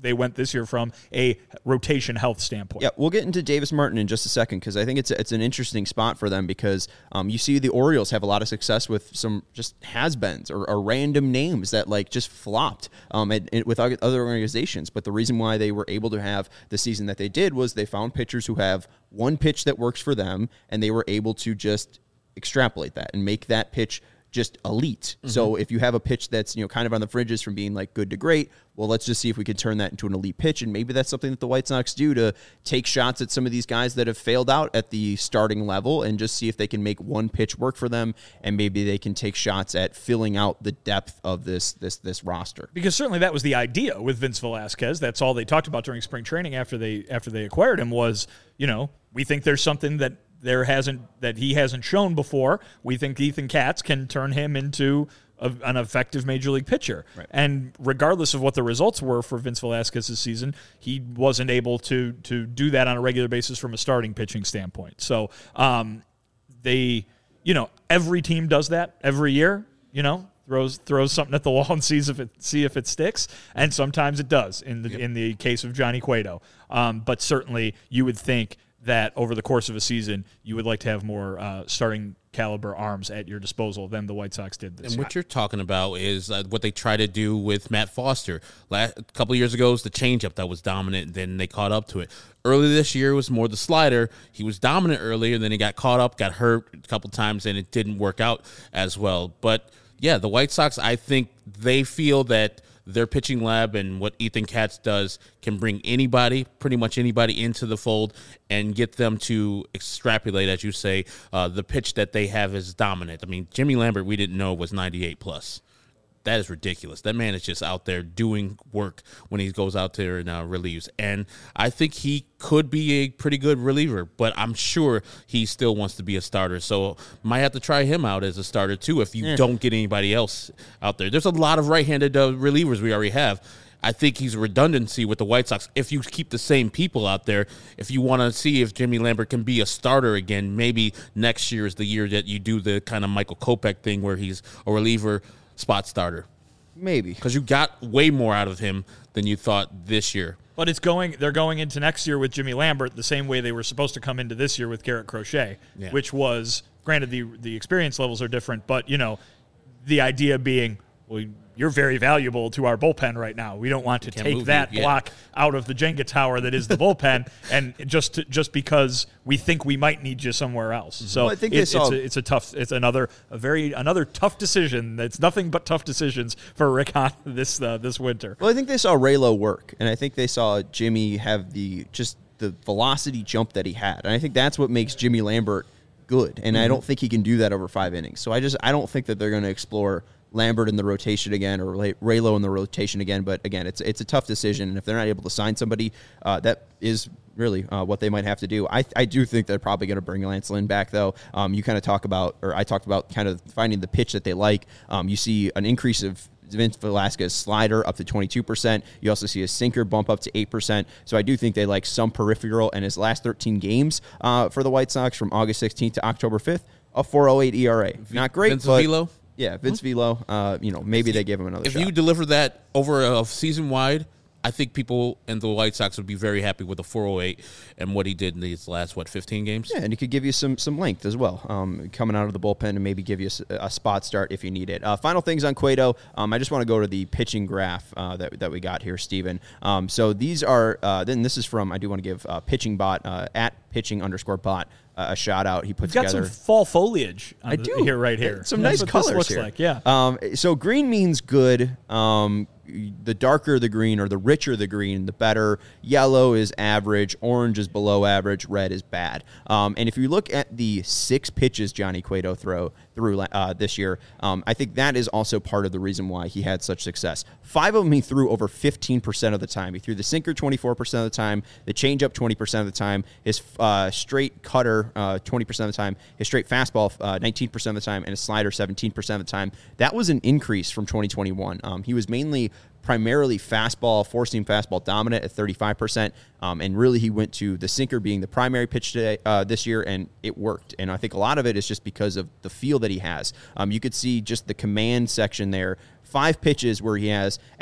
they went this year from a rotation health standpoint. Yeah, we'll get into Davis Martin in just a second because I think it's a, it's an interesting spot for them because um, you see the Orioles have a lot of success with some just has-beens or, or random names that like just flopped um, and, and with other organizations. But the reason why they were able to have the season that they did was they found pitchers who have one pitch that works for them, and they were able to just extrapolate that and make that pitch just elite. Mm-hmm. So if you have a pitch that's, you know, kind of on the fringes from being like good to great, well, let's just see if we can turn that into an elite pitch. And maybe that's something that the White Sox do to take shots at some of these guys that have failed out at the starting level and just see if they can make one pitch work for them. And maybe they can take shots at filling out the depth of this, this, this roster. Because certainly that was the idea with Vince Velasquez. That's all they talked about during spring training after they, after they acquired him was, you know, we think there's something that there hasn't that he hasn't shown before. We think Ethan Katz can turn him into a, an effective major league pitcher. Right. And regardless of what the results were for Vince Velasquez this season, he wasn't able to to do that on a regular basis from a starting pitching standpoint. So um, they, you know, every team does that every year. You know, throws throws something at the wall and sees if it see if it sticks, and sometimes it does. In the yep. in the case of Johnny Cueto, um, but certainly you would think that over the course of a season, you would like to have more uh, starting caliber arms at your disposal than the White Sox did this and year. And what you're talking about is uh, what they try to do with Matt Foster. Last, a couple of years ago, it was the changeup that was dominant, then they caught up to it. Early this year, it was more the slider. He was dominant earlier, then he got caught up, got hurt a couple times, and it didn't work out as well. But, yeah, the White Sox, I think they feel that their pitching lab and what Ethan Katz does can bring anybody, pretty much anybody, into the fold and get them to extrapolate, as you say, uh, the pitch that they have is dominant. I mean, Jimmy Lambert, we didn't know was ninety-eight plus. That is ridiculous. That man is just out there doing work when he goes out there and uh, relieves. And I think he could be a pretty good reliever, but I'm sure he still wants to be a starter. So might have to try him out as a starter too if you yeah. don't get anybody else out there. There's a lot of right-handed uh, relievers we already have. I think he's a redundancy with the White Sox. If you keep the same people out there, if you want to see if Jimmy Lambert can be a starter again, maybe next year is the year that you do the kind of Michael Kopech thing where he's a reliever spot starter. Maybe. Because you got way more out of him than you thought this year. But it's going. They're going into next year with Jimmy Lambert the same way they were supposed to come into this year with Garrett Crochet, yeah. which was, granted, the the experience levels are different, but, you know, the idea being, well, you're very valuable to our bullpen right now. We don't want to take that you, yeah. block out of the Jenga tower that is the bullpen, and just to, just because we think we might need you somewhere else. Mm-hmm. So well, I think it, saw- it's, a, it's a tough, it's another a very another tough decision. It's nothing but tough decisions for Rick Hahn this uh, this winter. Well, I think they saw Raylo work, and I think they saw Jimmy have the just the velocity jump that he had, and I think that's what makes Jimmy Lambert good. And mm-hmm. I don't think he can do that over five innings. So I just I don't think that they're going to explore Lambert in the rotation again or Raylo in the rotation again. But again, it's it's a tough decision. And if they're not able to sign somebody, uh, that is really uh, what they might have to do. I I do think they're probably going to bring Lance Lynn back, though. Um, you kind of talk about, or I talked about kind of finding the pitch that they like. Um, you see an increase of Vince Velasquez slider up to twenty-two percent. You also see a sinker bump up to eight percent. So I do think they like some peripheral. And his last thirteen games uh, for the White Sox from August sixteenth to October fifth, a four oh eight E R A. Not great, Vince but... Velo? Yeah, Vince mm-hmm. Velo, uh, you know, maybe they give him another if shot. If you deliver that over a season wide, I think people in the White Sox would be very happy with the four oh eight and what he did in these last, what, fifteen games? Yeah, and he could give you some some length as well, um, coming out of the bullpen and maybe give you a, a spot start if you need it. Uh, final things on Cueto. Um, I just want to go to the pitching graph uh, that, that we got here, Steven. Um, so these are, uh, then this is from, I do want to give uh, Pitching Bot, uh, at pitching underscore bot, Uh, a shout out. He put You've got together some fall foliage. On I the, do here, right here. Some That's nice what colors this looks here. like. Yeah. Um, so green means good. Um, the darker the green or the richer the green, the better. Yellow is average. Orange is below average. Red is bad. Um, and if you look at the six pitches Johnny Cueto throw through uh, this year, um, I think that is also part of the reason why he had such success. Five of them he threw over fifteen percent of the time. He threw the sinker twenty-four percent of the time, the changeup twenty percent of the time, his uh, straight cutter uh, twenty percent of the time, his straight fastball uh, nineteen percent of the time, and his slider seventeen percent of the time. That was an increase from twenty twenty-one. Um, he was mainly primarily fastball, four-seam fastball dominant at thirty-five percent, um, and really he went to the sinker being the primary pitch today, uh, this year, and it worked. And I think a lot of it is just because of the feel that he has. Um, you could see just the command section there, five pitches where he has at least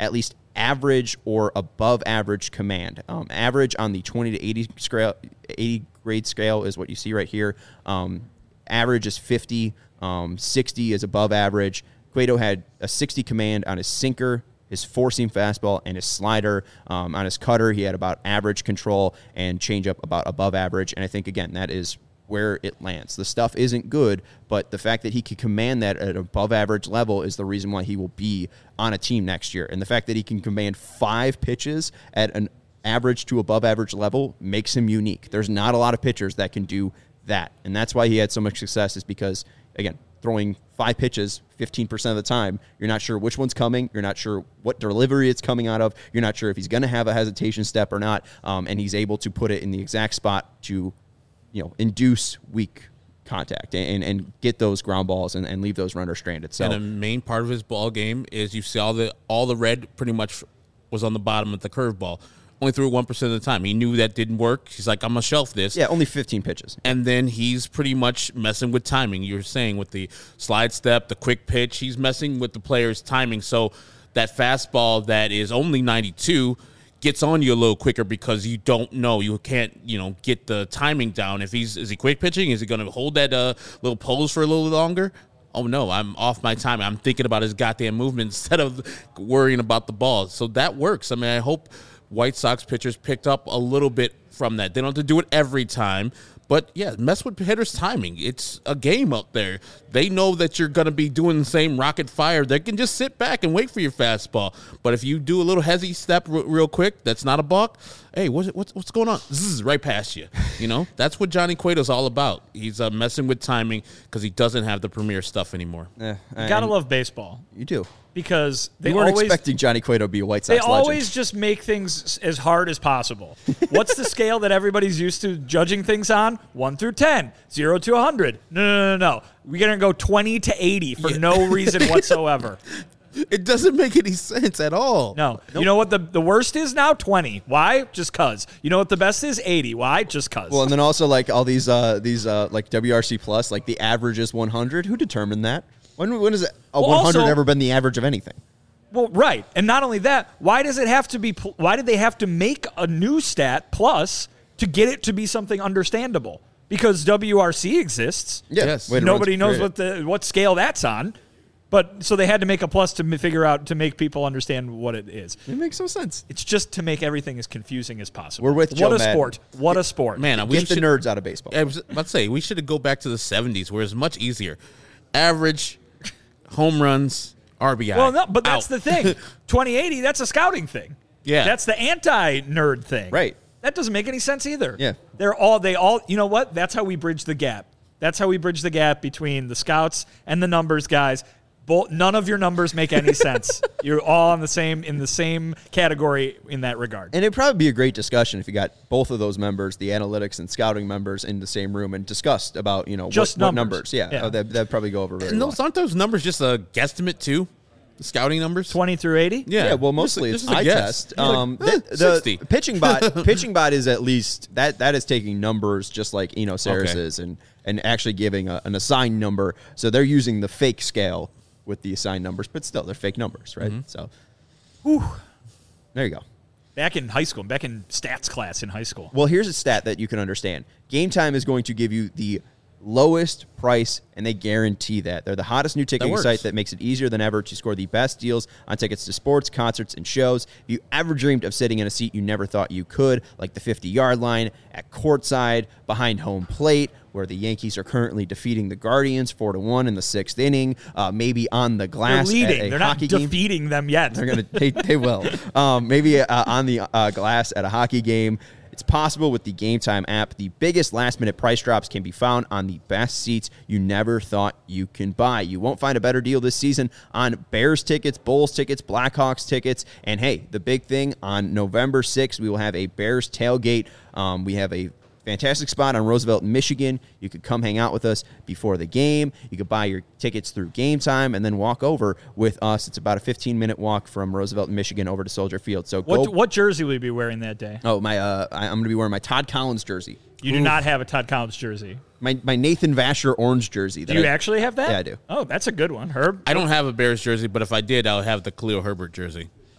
average or above average command. Um, average on the twenty to eighty scale, eighty grade scale is what you see right here. Um, average is fifty. Um, sixty is above average. Cueto had a sixty command on his sinker, his four-seam fastball, and his slider. Um, on his cutter, he had about average control, and changeup about above average. And I think, again, that is where it lands. The stuff isn't good, but the fact that he can command that at an above-average level is the reason why he will be on a team next year. And the fact that he can command five pitches at an average to above-average level makes him unique. There's not a lot of pitchers that can do that, and that's why he had so much success, is because, again, throwing five pitches fifteen percent of the time, you're not sure which one's coming, you're not sure what delivery it's coming out of, you're not sure if he's going to have a hesitation step or not, um, and he's able to put it in the exact spot to, you know, induce weak contact and, and get those ground balls and, and leave those runners stranded. So, and a main part of his ball game is you see all the all the red pretty much was on the bottom of the curveball. Only threw it one percent of the time. He knew that didn't work. He's like, I'm going to shelf this. Yeah, only fifteen pitches. And then he's pretty much messing with timing. You were saying with the slide step, the quick pitch, he's messing with the player's timing. So that fastball that is only ninety-two gets on you a little quicker because you don't know. You can't, you know, get the timing down. If he's, is he quick pitching? Is he going to hold that uh, little pose for a little longer? Oh, no, I'm off my timing. I'm thinking about his goddamn movement instead of worrying about the ball. So that works. I mean, I hope White Sox pitchers picked up a little bit from that. They don't have to do it every time. But, yeah, mess with hitters' timing. It's a game up there. They know that you're going to be doing the same rocket fire. They can just sit back and wait for your fastball. But if you do a little hezzy step r- real quick, that's not a balk. Hey, what's, what's, what's going on? This is right past you. You know, that's what Johnny Cueto's all about. He's uh, messing with timing because he doesn't have the premier stuff anymore. Eh, You gotta love baseball. You do. Because they You weren't always, expecting Johnny Cueto to be a White Sox They legend. always just make things as hard as possible. What's the scale that everybody's used to judging things on? one through ten, zero to one hundred. No, no, no, no. We're going to go twenty to eighty for yeah. no reason whatsoever. It doesn't make any sense at all. No. Nope. You know what the, the worst is now? twenty. Why? Just cuz. You know what the best is? eighty. Why? Just cuz. Well, and then also like all these, uh, these uh, like W R C Plus, like the average is one hundred. Who determined that? When, when has a well, one hundred also, ever been the average of anything? Well, right. And not only that, why does it have to be, why did they have to make a new stat plus to get it to be something understandable? Because W R C exists. Yeah. Yes. Nobody knows what the what scale that's on. But so they had to make a plus to figure out, to make people understand what it is. It makes no sense. It's just to make everything as confusing as possible. We're with Joe What a Madden. sport. What a sport. Man, we Get the should, nerds out of baseball. I was about to say, we should go back to the seventies where it's much easier. Average, home runs, R B I. Well, no, but that's out. the thing. twenty eighty, that's a scouting thing. Yeah. That's the anti-nerd thing. Right. That doesn't make any sense either. Yeah. They're all, they all, you know what? That's how we bridge the gap. That's how we bridge the gap between the scouts and the numbers guys. Both, none of your numbers make any sense. You're all in the same in the same category in that regard. And it'd probably be a great discussion if you got both of those members, the analytics and scouting members, in the same room and discussed about, you know, Just what, what numbers. numbers. Yeah, Yeah. Oh, that, that'd probably go over very And well. those, aren't those numbers just a guesstimate too? The scouting numbers? twenty through eighty? Yeah. Yeah, well, mostly Just- it's just a eye guess. test. You're like, Um, eh, the, sixty. the pitching bot, pitching bot is at least that that is taking numbers just like Eno Saris Okay. is, and and actually giving a, an assigned number. So they're using the fake scale with the assigned numbers, but still they're fake numbers, right? Mm-hmm. So, Whew. there you go. Back in high school, back in stats class in high school. Well, here's a stat that you can understand. Game Time is going to give you the lowest price, and they guarantee that. They're the hottest new ticketing works. site that makes it easier than ever to score the best deals on tickets to sports, concerts, and shows. If you ever dreamed of sitting in a seat you never thought you could, like the fifty-yard line, at courtside, behind home plate, where the Yankees are currently defeating the Guardians four to one in the sixth inning, uh, maybe on the They're glass at leading. a They're not hockey game. defeating them yet. They're gonna. They, they will. Um, maybe uh, on the uh, glass at a hockey game. It's possible with the Game Time app. The biggest last-minute price drops can be found on the best seats you never thought you can buy. You won't find a better deal this season on Bears tickets, Bulls tickets, Blackhawks tickets, and hey, the big thing, on November sixth, we will have a Bears tailgate. Um, we have a fantastic spot on Roosevelt, Michigan. You could come hang out with us before the game. You could buy your tickets through Game Time and then walk over with us. It's about a fifteen-minute walk from Roosevelt, Michigan over to Soldier Field. So go. What, what jersey will you be wearing that day? Oh, my! Uh, I, I'm going to be wearing my Todd Collins jersey. You do not have a Todd Collins jersey. My my Nathan Vasher orange jersey. Do that you I- actually have that? Yeah, I do. Oh, that's a good one. Herb? I don't have a Bears jersey, but if I did, I would have the Khalil Herbert jersey.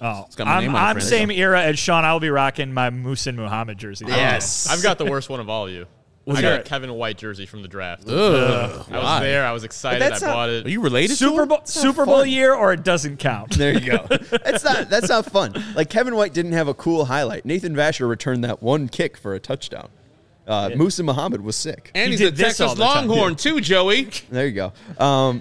Oh, It's got my I'm, name on it, I'm friend. same era as Sean. I'll be rocking my Muhsin Muhammad jersey. Yes. I've got the worst one of all you. I got it? a Kevin White jersey from the draft. Ugh, I was why? there. I was excited. But I that's not- bought Are it. you related Super to him? Bowl, Super Bowl year, or it doesn't count. There you go. That's not that's not fun. Like Kevin White didn't have a cool highlight. Nathan Vasher returned that one kick for a touchdown. Uh, Muhsin Muhammad was sick. And He he's a did this all Texas the time. Longhorn, too, Joey. There you go. Um,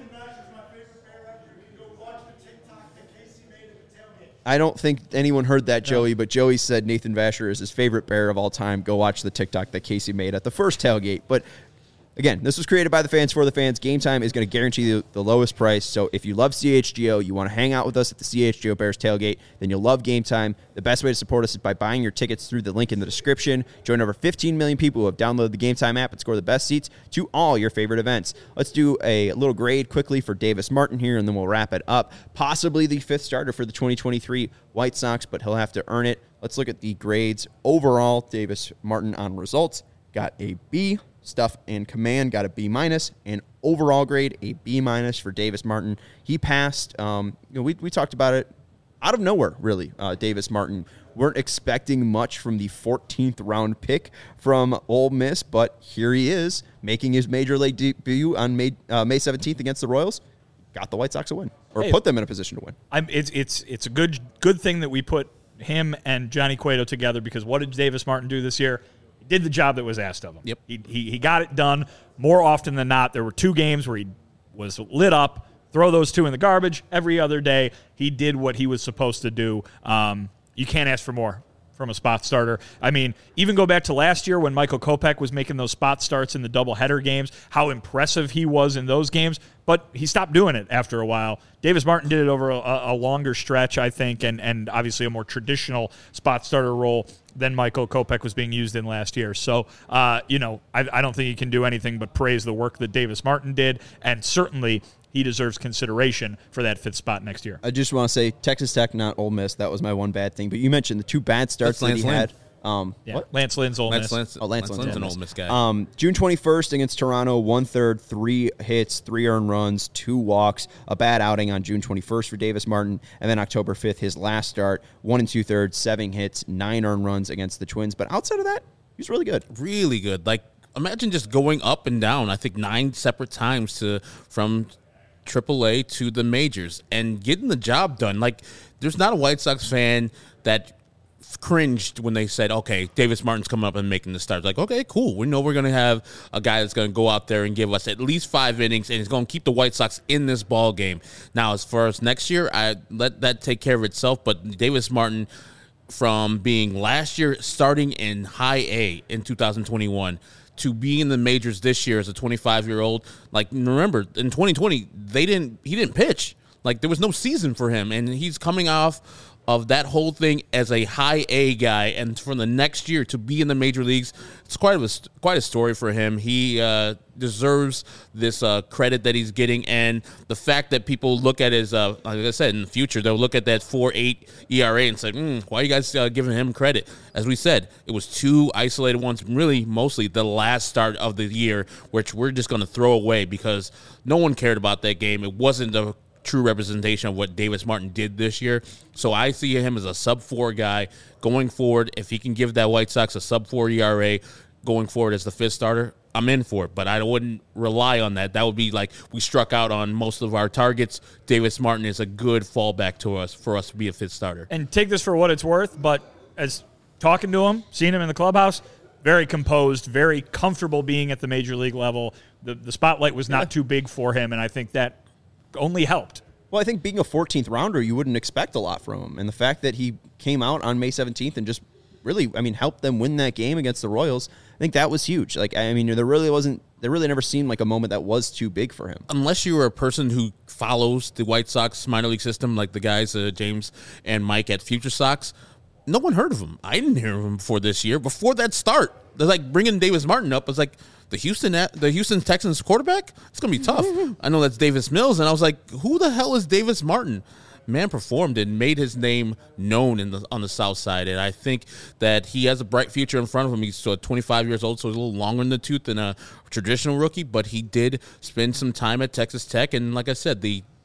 I don't think anyone heard that, Joey, but Joey said Nathan Vasher is his favorite Bear of all time. Go watch the TikTok that Casey made at the first tailgate. But again, this was created by the fans for the fans. Game Time is going to guarantee you the lowest price. So if you love C H G O, you want to hang out with us at the C H G O Bears tailgate, then you'll love Game Time. The best way to support us is by buying your tickets through the link in the description. Join over fifteen million people who have downloaded the Game Time app and score the best seats to all your favorite events. Let's do a little grade quickly for Davis Martin here, and then we'll wrap it up. Possibly the fifth starter for the twenty twenty-three White Sox, but he'll have to earn it. Let's look at the grades. Overall, Davis Martin on results got a B. Stuff and command got a B minus, and overall grade a B minus for Davis Martin. He passed. Um, you know, we we talked about it out of nowhere, really. Uh, Davis Martin weren't expecting much from the fourteenth round pick from Ole Miss, but here he is making his major league debut on May uh, May seventeenth against the Royals. Got the White Sox a win, or Hey. put them in a position to win. I'm, it's it's it's a good good thing that we put him and Johnny Cueto together, because what did Davis Martin do this year? He did the job that was asked of him. Yep. He, he he got it done more often than not. There were two games where he was lit up. Throw those two in the garbage. Every other day, he did what he was supposed to do. Um, you can't ask for more from a spot starter. I mean, even go back to last year when Michael Kopech was making those spot starts in the doubleheader games, how impressive he was in those games, but he stopped doing it after a while. Davis Martin did it over a, a longer stretch, I think, and, and obviously a more traditional spot starter role than Michael Kopech was being used in last year. So, uh, you know, I, I don't think he can do anything but praise the work that Davis Martin did, and certainly he deserves consideration for that fifth spot next year. I just want to say Texas Tech, not Ole Miss. That was my one bad thing. But you mentioned the two bad starts That's that he Lance had. Um, Yeah. what? Lance Lynn's Ole Lance, Miss. Lance, Oh, Lance, Lance Lynn's Lynn's an Ole Ole Miss. Miss guy. Um, June twenty-first against Toronto, one-third, three hits, three earned runs, two walks, a bad outing on June twenty-first for Davis Martin, and then October fifth, his last start, one and two-thirds, seven hits, nine earned runs against the Twins. But outside of that, he's really good. Really good. Like, imagine just going up and down, I think, nine separate times to from triple A to the majors and getting the job done. Like, there's not a White Sox fan that cringed when they said, okay, Davis Martin's coming up and making the start. Like, okay, cool. We know we're going to have a guy that's going to go out there and give us at least five innings, and he's going to keep the White Sox in this ball game. Now, as far as next year, I let that take care of itself, but Davis Martin, from being last year starting in high A in two thousand twenty-one to being in the majors this year as a twenty-five-year-old, like, remember, in twenty twenty, they didn't he didn't pitch. Like, there was no season for him, and he's coming off of that whole thing as a high A guy, and from the next year to be in the major leagues, it's quite a quite a story for him. He uh, deserves this uh, credit that he's getting, and the fact that people look at his, uh, like I said, in the future they'll look at that four point eight E R A and say, mm, "Why are you guys uh, giving him credit?" As we said, it was two isolated ones, really mostly the last start of the year, which we're just going to throw away because no one cared about that game. It wasn't a true representation of what Davis Martin did this year. So I see him as a sub four guy going forward. If he can give that White Sox a sub four E R A going forward as the fifth starter, I'm in for it, but I wouldn't rely on that. That would be like we struck out on most of our targets. Davis Martin is a good fallback to us for us to be a fifth starter. And take this for what it's worth, but as talking to him, seeing him in the clubhouse, very composed, very comfortable being at the major league level. The the spotlight was not too big for him, and I think that only helped. Well, I think being a fourteenth rounder, you wouldn't expect a lot from him. And the fact that he came out on May seventeenth and just really, I mean, helped them win that game against the Royals, I think that was huge. Like, I mean, there really wasn't, there really never seemed like a moment that was too big for him. Unless you were a person who follows the White Sox minor league system, like the guys, uh, James and Mike at Future Sox, no one heard of him. I didn't hear of him before this year. Before that start, they're like bringing Davis Martin up. I was like, the Houston, the Houston Texans quarterback? It's going to be tough. I know that's Davis Mills, and I was like, who the hell is Davis Martin? Man performed and made his name known in the on the South Side, and I think that he has a bright future in front of him. He's uh, twenty-five years old, so he's a little longer in the tooth than a traditional rookie, but he did spend some time at Texas Tech, and like I said, the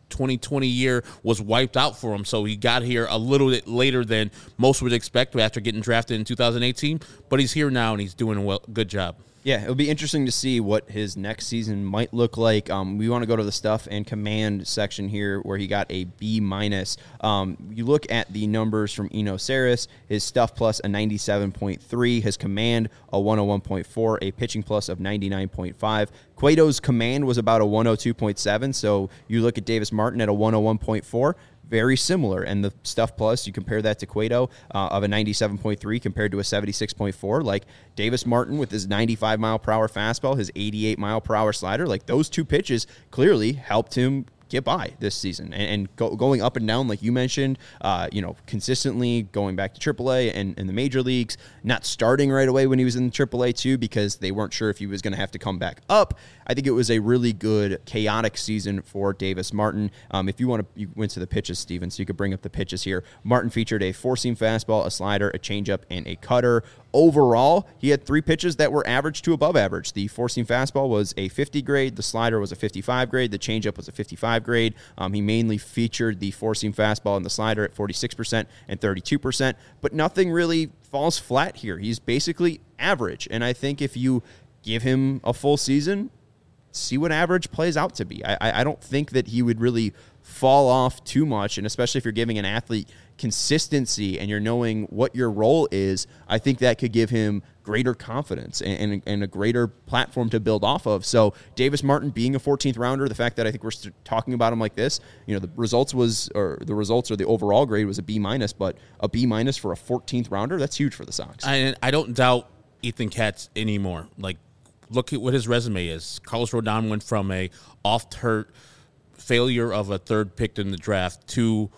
twenty twenty year was wiped out for him, so he got here a little bit later than most would expect after getting drafted in two thousand eighteen, but he's here now, and he's doing a well, good job. Yeah, it'll be interesting to see what his next season might look like. Um, we want to go to the stuff and command section here where he got a B minus. Um, you look at the numbers from Eno Saris, his stuff plus a ninety-seven point three, his command a one oh one point four, a pitching plus of ninety-nine point five. Cueto's command was about a one oh two point seven, so you look at Davis Martin at a one oh one point four. Very similar, and the stuff plus, you compare that to Cueto uh, of a ninety-seven point three compared to a seventy-six point four. Like Davis Martin with his ninety-five mile per hour fastball, his eighty-eight mile per hour slider, like those two pitches clearly helped him get by this season, and, and go, going up and down like you mentioned, uh, you know, consistently going back to triple A and, and the major leagues, not starting right away when he was in triple A too because they weren't sure if he was going to have to come back up. I think it was a really good chaotic season for Davis Martin. Um, if you want to, you went to the pitches, Steven, so you could bring up the pitches here. Martin featured a four-seam fastball, a slider, a changeup, and a cutter. Overall, he had three pitches that were average to above average. The four-seam fastball was a fifty grade, the slider was a fifty-five grade, the changeup was a fifty-five grade. Um, he mainly featured the four-seam fastball and the slider at forty-six percent and thirty-two percent, but nothing really falls flat here. He's basically average, and I think if you give him a full season, see what average plays out to be. I, I don't think that he would really fall off too much, and especially if you're giving an athlete consistency and you're knowing what your role is, I think that could give him greater confidence and, and, and a greater platform to build off of. So Davis Martin being a fourteenth rounder, the fact that I think we're talking about him like this, you know, the results was, or the results or the overall grade was a B minus, but a B minus for a fourteenth rounder, that's huge for the Sox. I, I don't doubt Ethan Katz anymore. Like, look at what his resume is. Carlos Rodon went from a oft-hurt failure of a third pick in the draft to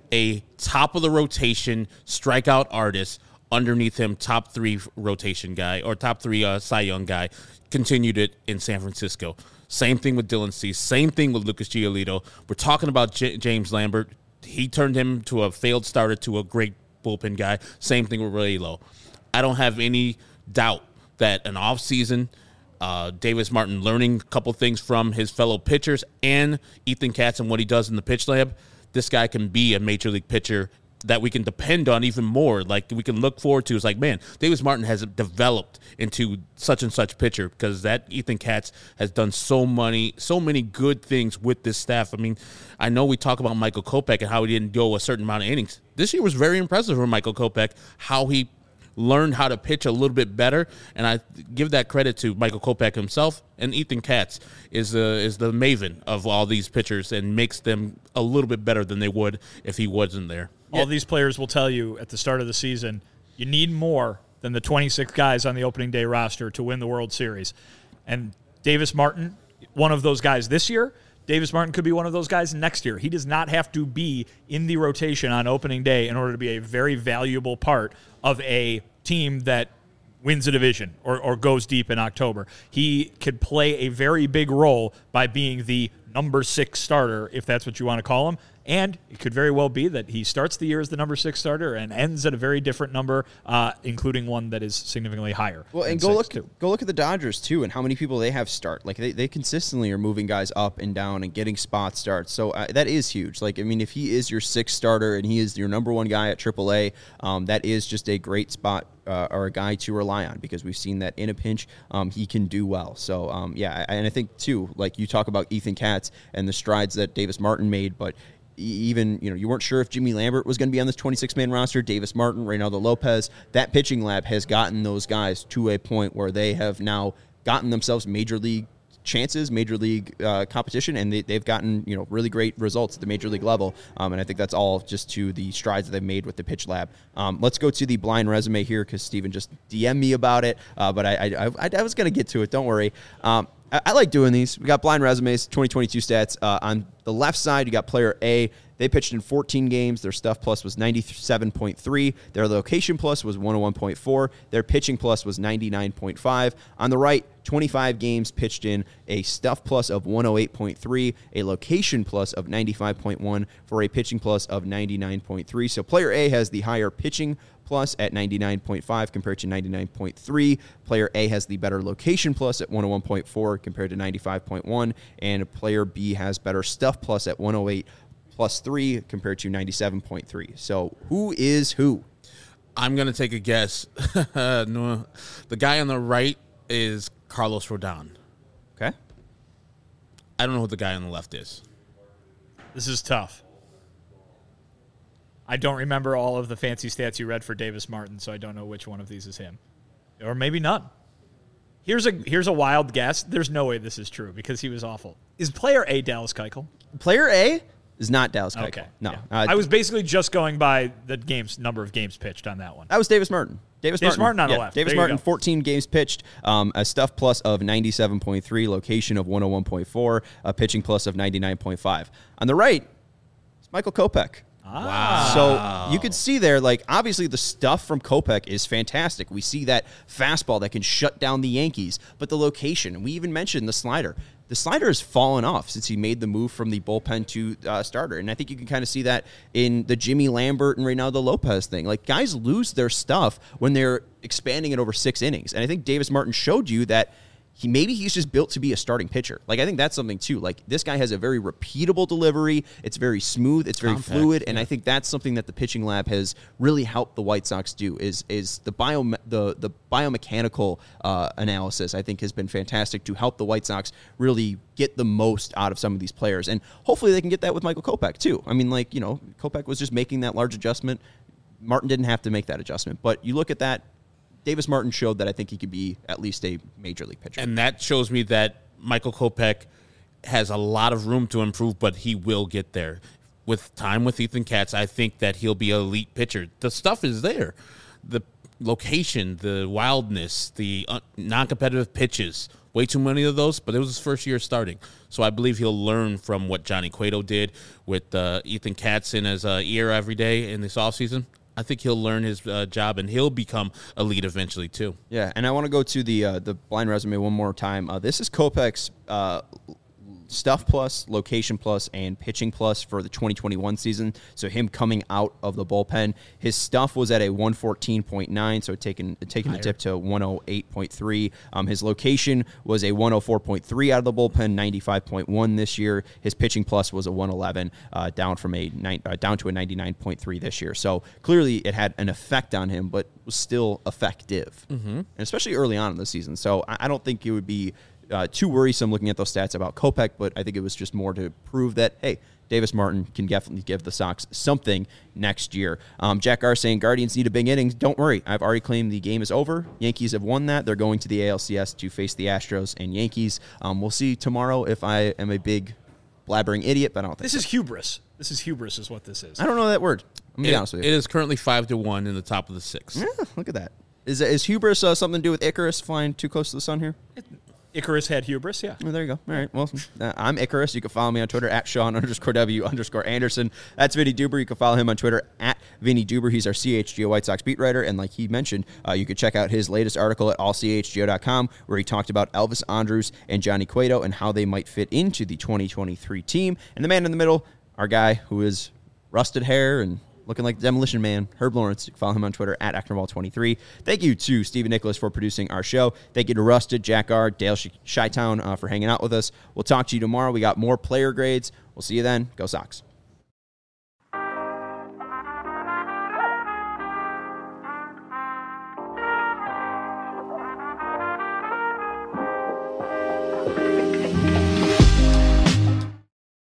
a top-of-the-rotation strikeout artist, underneath him top three rotation guy, or top three uh, Cy Young guy, continued it in San Francisco. Same thing with Dylan Cease. Same thing with Lucas Giolito. We're talking about J- James Lambert. He turned him to a failed starter to a great bullpen guy. Same thing with Ray Lowe. I don't have any doubt that an offseason, uh, Davis Martin learning a couple things from his fellow pitchers and Ethan Katz and what he does in the pitch lab, this guy can be a major league pitcher that we can depend on even more. Like, we can look forward to. It's like, man, Davis Martin has developed into such and such pitcher because that Ethan Katz has done so many, so many good things with this staff. I mean, I know we talk about Michael Kopech and how he didn't go a certain amount of innings. This year was very impressive for Michael Kopech, how he learned how to pitch a little bit better, and I give that credit to Michael Kopech himself. And Ethan Katz is the is the maven of all these pitchers and makes them a little bit better than they would if he wasn't there. All yeah. these players will tell you at the start of the season, you need more than the twenty-six guys on the opening day roster to win the World Series. And Davis Martin, one of those guys this year. Davis Martin could be one of those guys next year. He does not have to be in the rotation on opening day in order to be a very valuable part of a team that wins a division or, or goes deep in October. He could play a very big role by being the number six starter, if that's what you want to call him. And it could very well be that he starts the year as the number six starter and ends at a very different number, uh, including one that is significantly higher. Well, and go look too. go look at the Dodgers too, and how many people they have start. Like they, they consistently are moving guys up and down and getting spot starts. So uh, that is huge. Like I mean, if he is your sixth starter and he is your number one guy at triple A, um, that is just a great spot. Uh, or a guy to rely on because we've seen that in a pinch, um, he can do well. So, um, yeah, and I think, too, like you talk about Ethan Katz and the strides that Davis Martin made, but even, you know, you weren't sure if Jimmy Lambert was going to be on this twenty-six man roster, Davis Martin, Reynaldo Lopez. That pitching lab has gotten those guys to a point where they have now gotten themselves major league chances, major league uh, competition, and they, they've gotten, you know, really great results at the major league level. Um, and I think that's all just to the strides that they've made with the pitch lab. Um, let's go to the blind resume here because Steven just D M'd me about it, uh, but I, I, I, I was going to get to it. Don't worry. Um, I, I like doing these. We got blind resumes, twenty twenty-two stats. Uh, on the left side, you got player A. They pitched in fourteen games. Their stuff plus was ninety-seven point three. Their location plus was one oh one point four. Their pitching plus was ninety-nine point five. On the right, twenty-five games pitched in, a stuff plus of one oh eight point three, a location plus of ninety-five point one for a pitching plus of ninety-nine point three. So player A has the higher pitching plus at ninety-nine point five compared to ninety-nine point three. Player A has the better location plus at one oh one point four compared to ninety-five point one. And player B has better stuff plus at one oh eight plus three compared to ninety-seven point three. So who is who? I'm going to take a guess. No, the guy on the right is Carlos Rodon. Okay. I don't know who the guy on the left is. This is tough. I don't remember all of the fancy stats you read for Davis Martin, so I don't know which one of these is him. Or maybe none. Here's a here's a wild guess. There's no way this is true because he was awful. Is player A Dallas Keuchel? Player A is not Dallas Keuchel. Okay. No. Yeah. Uh, I was basically just going by the games number of games pitched on that one. That was Davis Martin. Davis, Davis Martin, Martin on the yeah, left. Davis There you Martin, go. fourteen games pitched, um, a stuff plus of ninety-seven point three, location of one oh one point four, a pitching plus of ninety-nine point five. On the right, it's Michael Kopech. Ah. So you could see there, like, obviously the stuff from Kopech is fantastic. We see that fastball that can shut down the Yankees, but the location, and we even mentioned the slider. The slider has fallen off since he made the move from the bullpen to uh, starter. And I think you can kind of see that in the Jimmy Lambert and Reynaldo Lopez thing. Like, guys lose their stuff when they're expanding it over six innings. And I think Davis Martin showed you that he maybe he's just built to be a starting pitcher. Like, I think that's something, too. Like, this guy has a very repeatable delivery. It's very smooth. It's very Compact, fluid. And yeah. I think that's something that the pitching lab has really helped the White Sox do is is the bio the the biomechanical uh, analysis, I think, has been fantastic to help the White Sox really get the most out of some of these players. And hopefully they can get that with Michael Kopech, too. I mean, like, you know, Kopech was just making that large adjustment. Martin didn't have to make that adjustment. But you look at that, Davis Martin showed that I think he could be at least a major league pitcher. And that shows me that Michael Kopech has a lot of room to improve, but he will get there. With time with Ethan Katz, I think that he'll be an elite pitcher. The stuff is there. The location, the wildness, the uh, non-competitive pitches, way too many of those, but it was his first year starting. So I believe he'll learn from what Johnny Cueto did with uh, Ethan Katz in his uh, ear every day in this offseason. I think he'll learn his uh, job, and he'll become elite eventually, too. Yeah, and I want to go to the uh, the blind resume one more time. Uh, this is Kopech's uh, stuff plus, location plus, and pitching plus for the twenty twenty-one season. So him coming out of the bullpen, his stuff was at a one fourteen point nine, so taking taking the dip to one oh eight point three. Um, his location was a one oh four point three out of the bullpen, ninety-five point one this year. His pitching plus was a one eleven, uh, down from a nine, uh, down to a ninety-nine point three this year. So clearly it had an effect on him, but was still effective, mm-hmm. and especially early on in the season. So I, I don't think it would be Uh, too worrisome looking at those stats about Kopech, but I think it was just more to prove that, hey, Davis Martin can definitely give the Sox something next year. Um, Jack R saying Guardians need a big innings. Don't worry. I've already claimed the game is over. Yankees have won that. They're going to the A L C S to face the Astros and Yankees. Um, we'll see tomorrow if I am a big blabbering idiot, but I don't think This so. is hubris. This is hubris is what this is. I don't know that word. I'm going to be It, honest with it you. is currently five to one in the top of the six. Yeah, look at that. Is, is hubris uh, something to do with Icarus flying too close to the sun here? Icarus had hubris, yeah. Oh, there you go. All right. Well, uh, I'm Icarus. You can follow me on Twitter at Sean underscore W underscore Anderson. That's Vinny Duber. You can follow him on Twitter at Vinny Duber. He's our C H G O White Sox beat writer. And like he mentioned, uh, you could check out his latest article at all c h g o dot com where he talked about Elvis Andrus and Johnny Cueto and how they might fit into the twenty twenty-three team. And the man in the middle, our guy who is rusted hair and looking like the Demolition Man, Herb Lawrence. You can follow him on Twitter at Actonball twenty-three. Thank you to Stephen Nicholas for producing our show. Thank you to Rusted, Jack R, Dale Chi-Town uh, for hanging out with us. We'll talk to you tomorrow. We got more player grades. We'll see you then. Go Sox.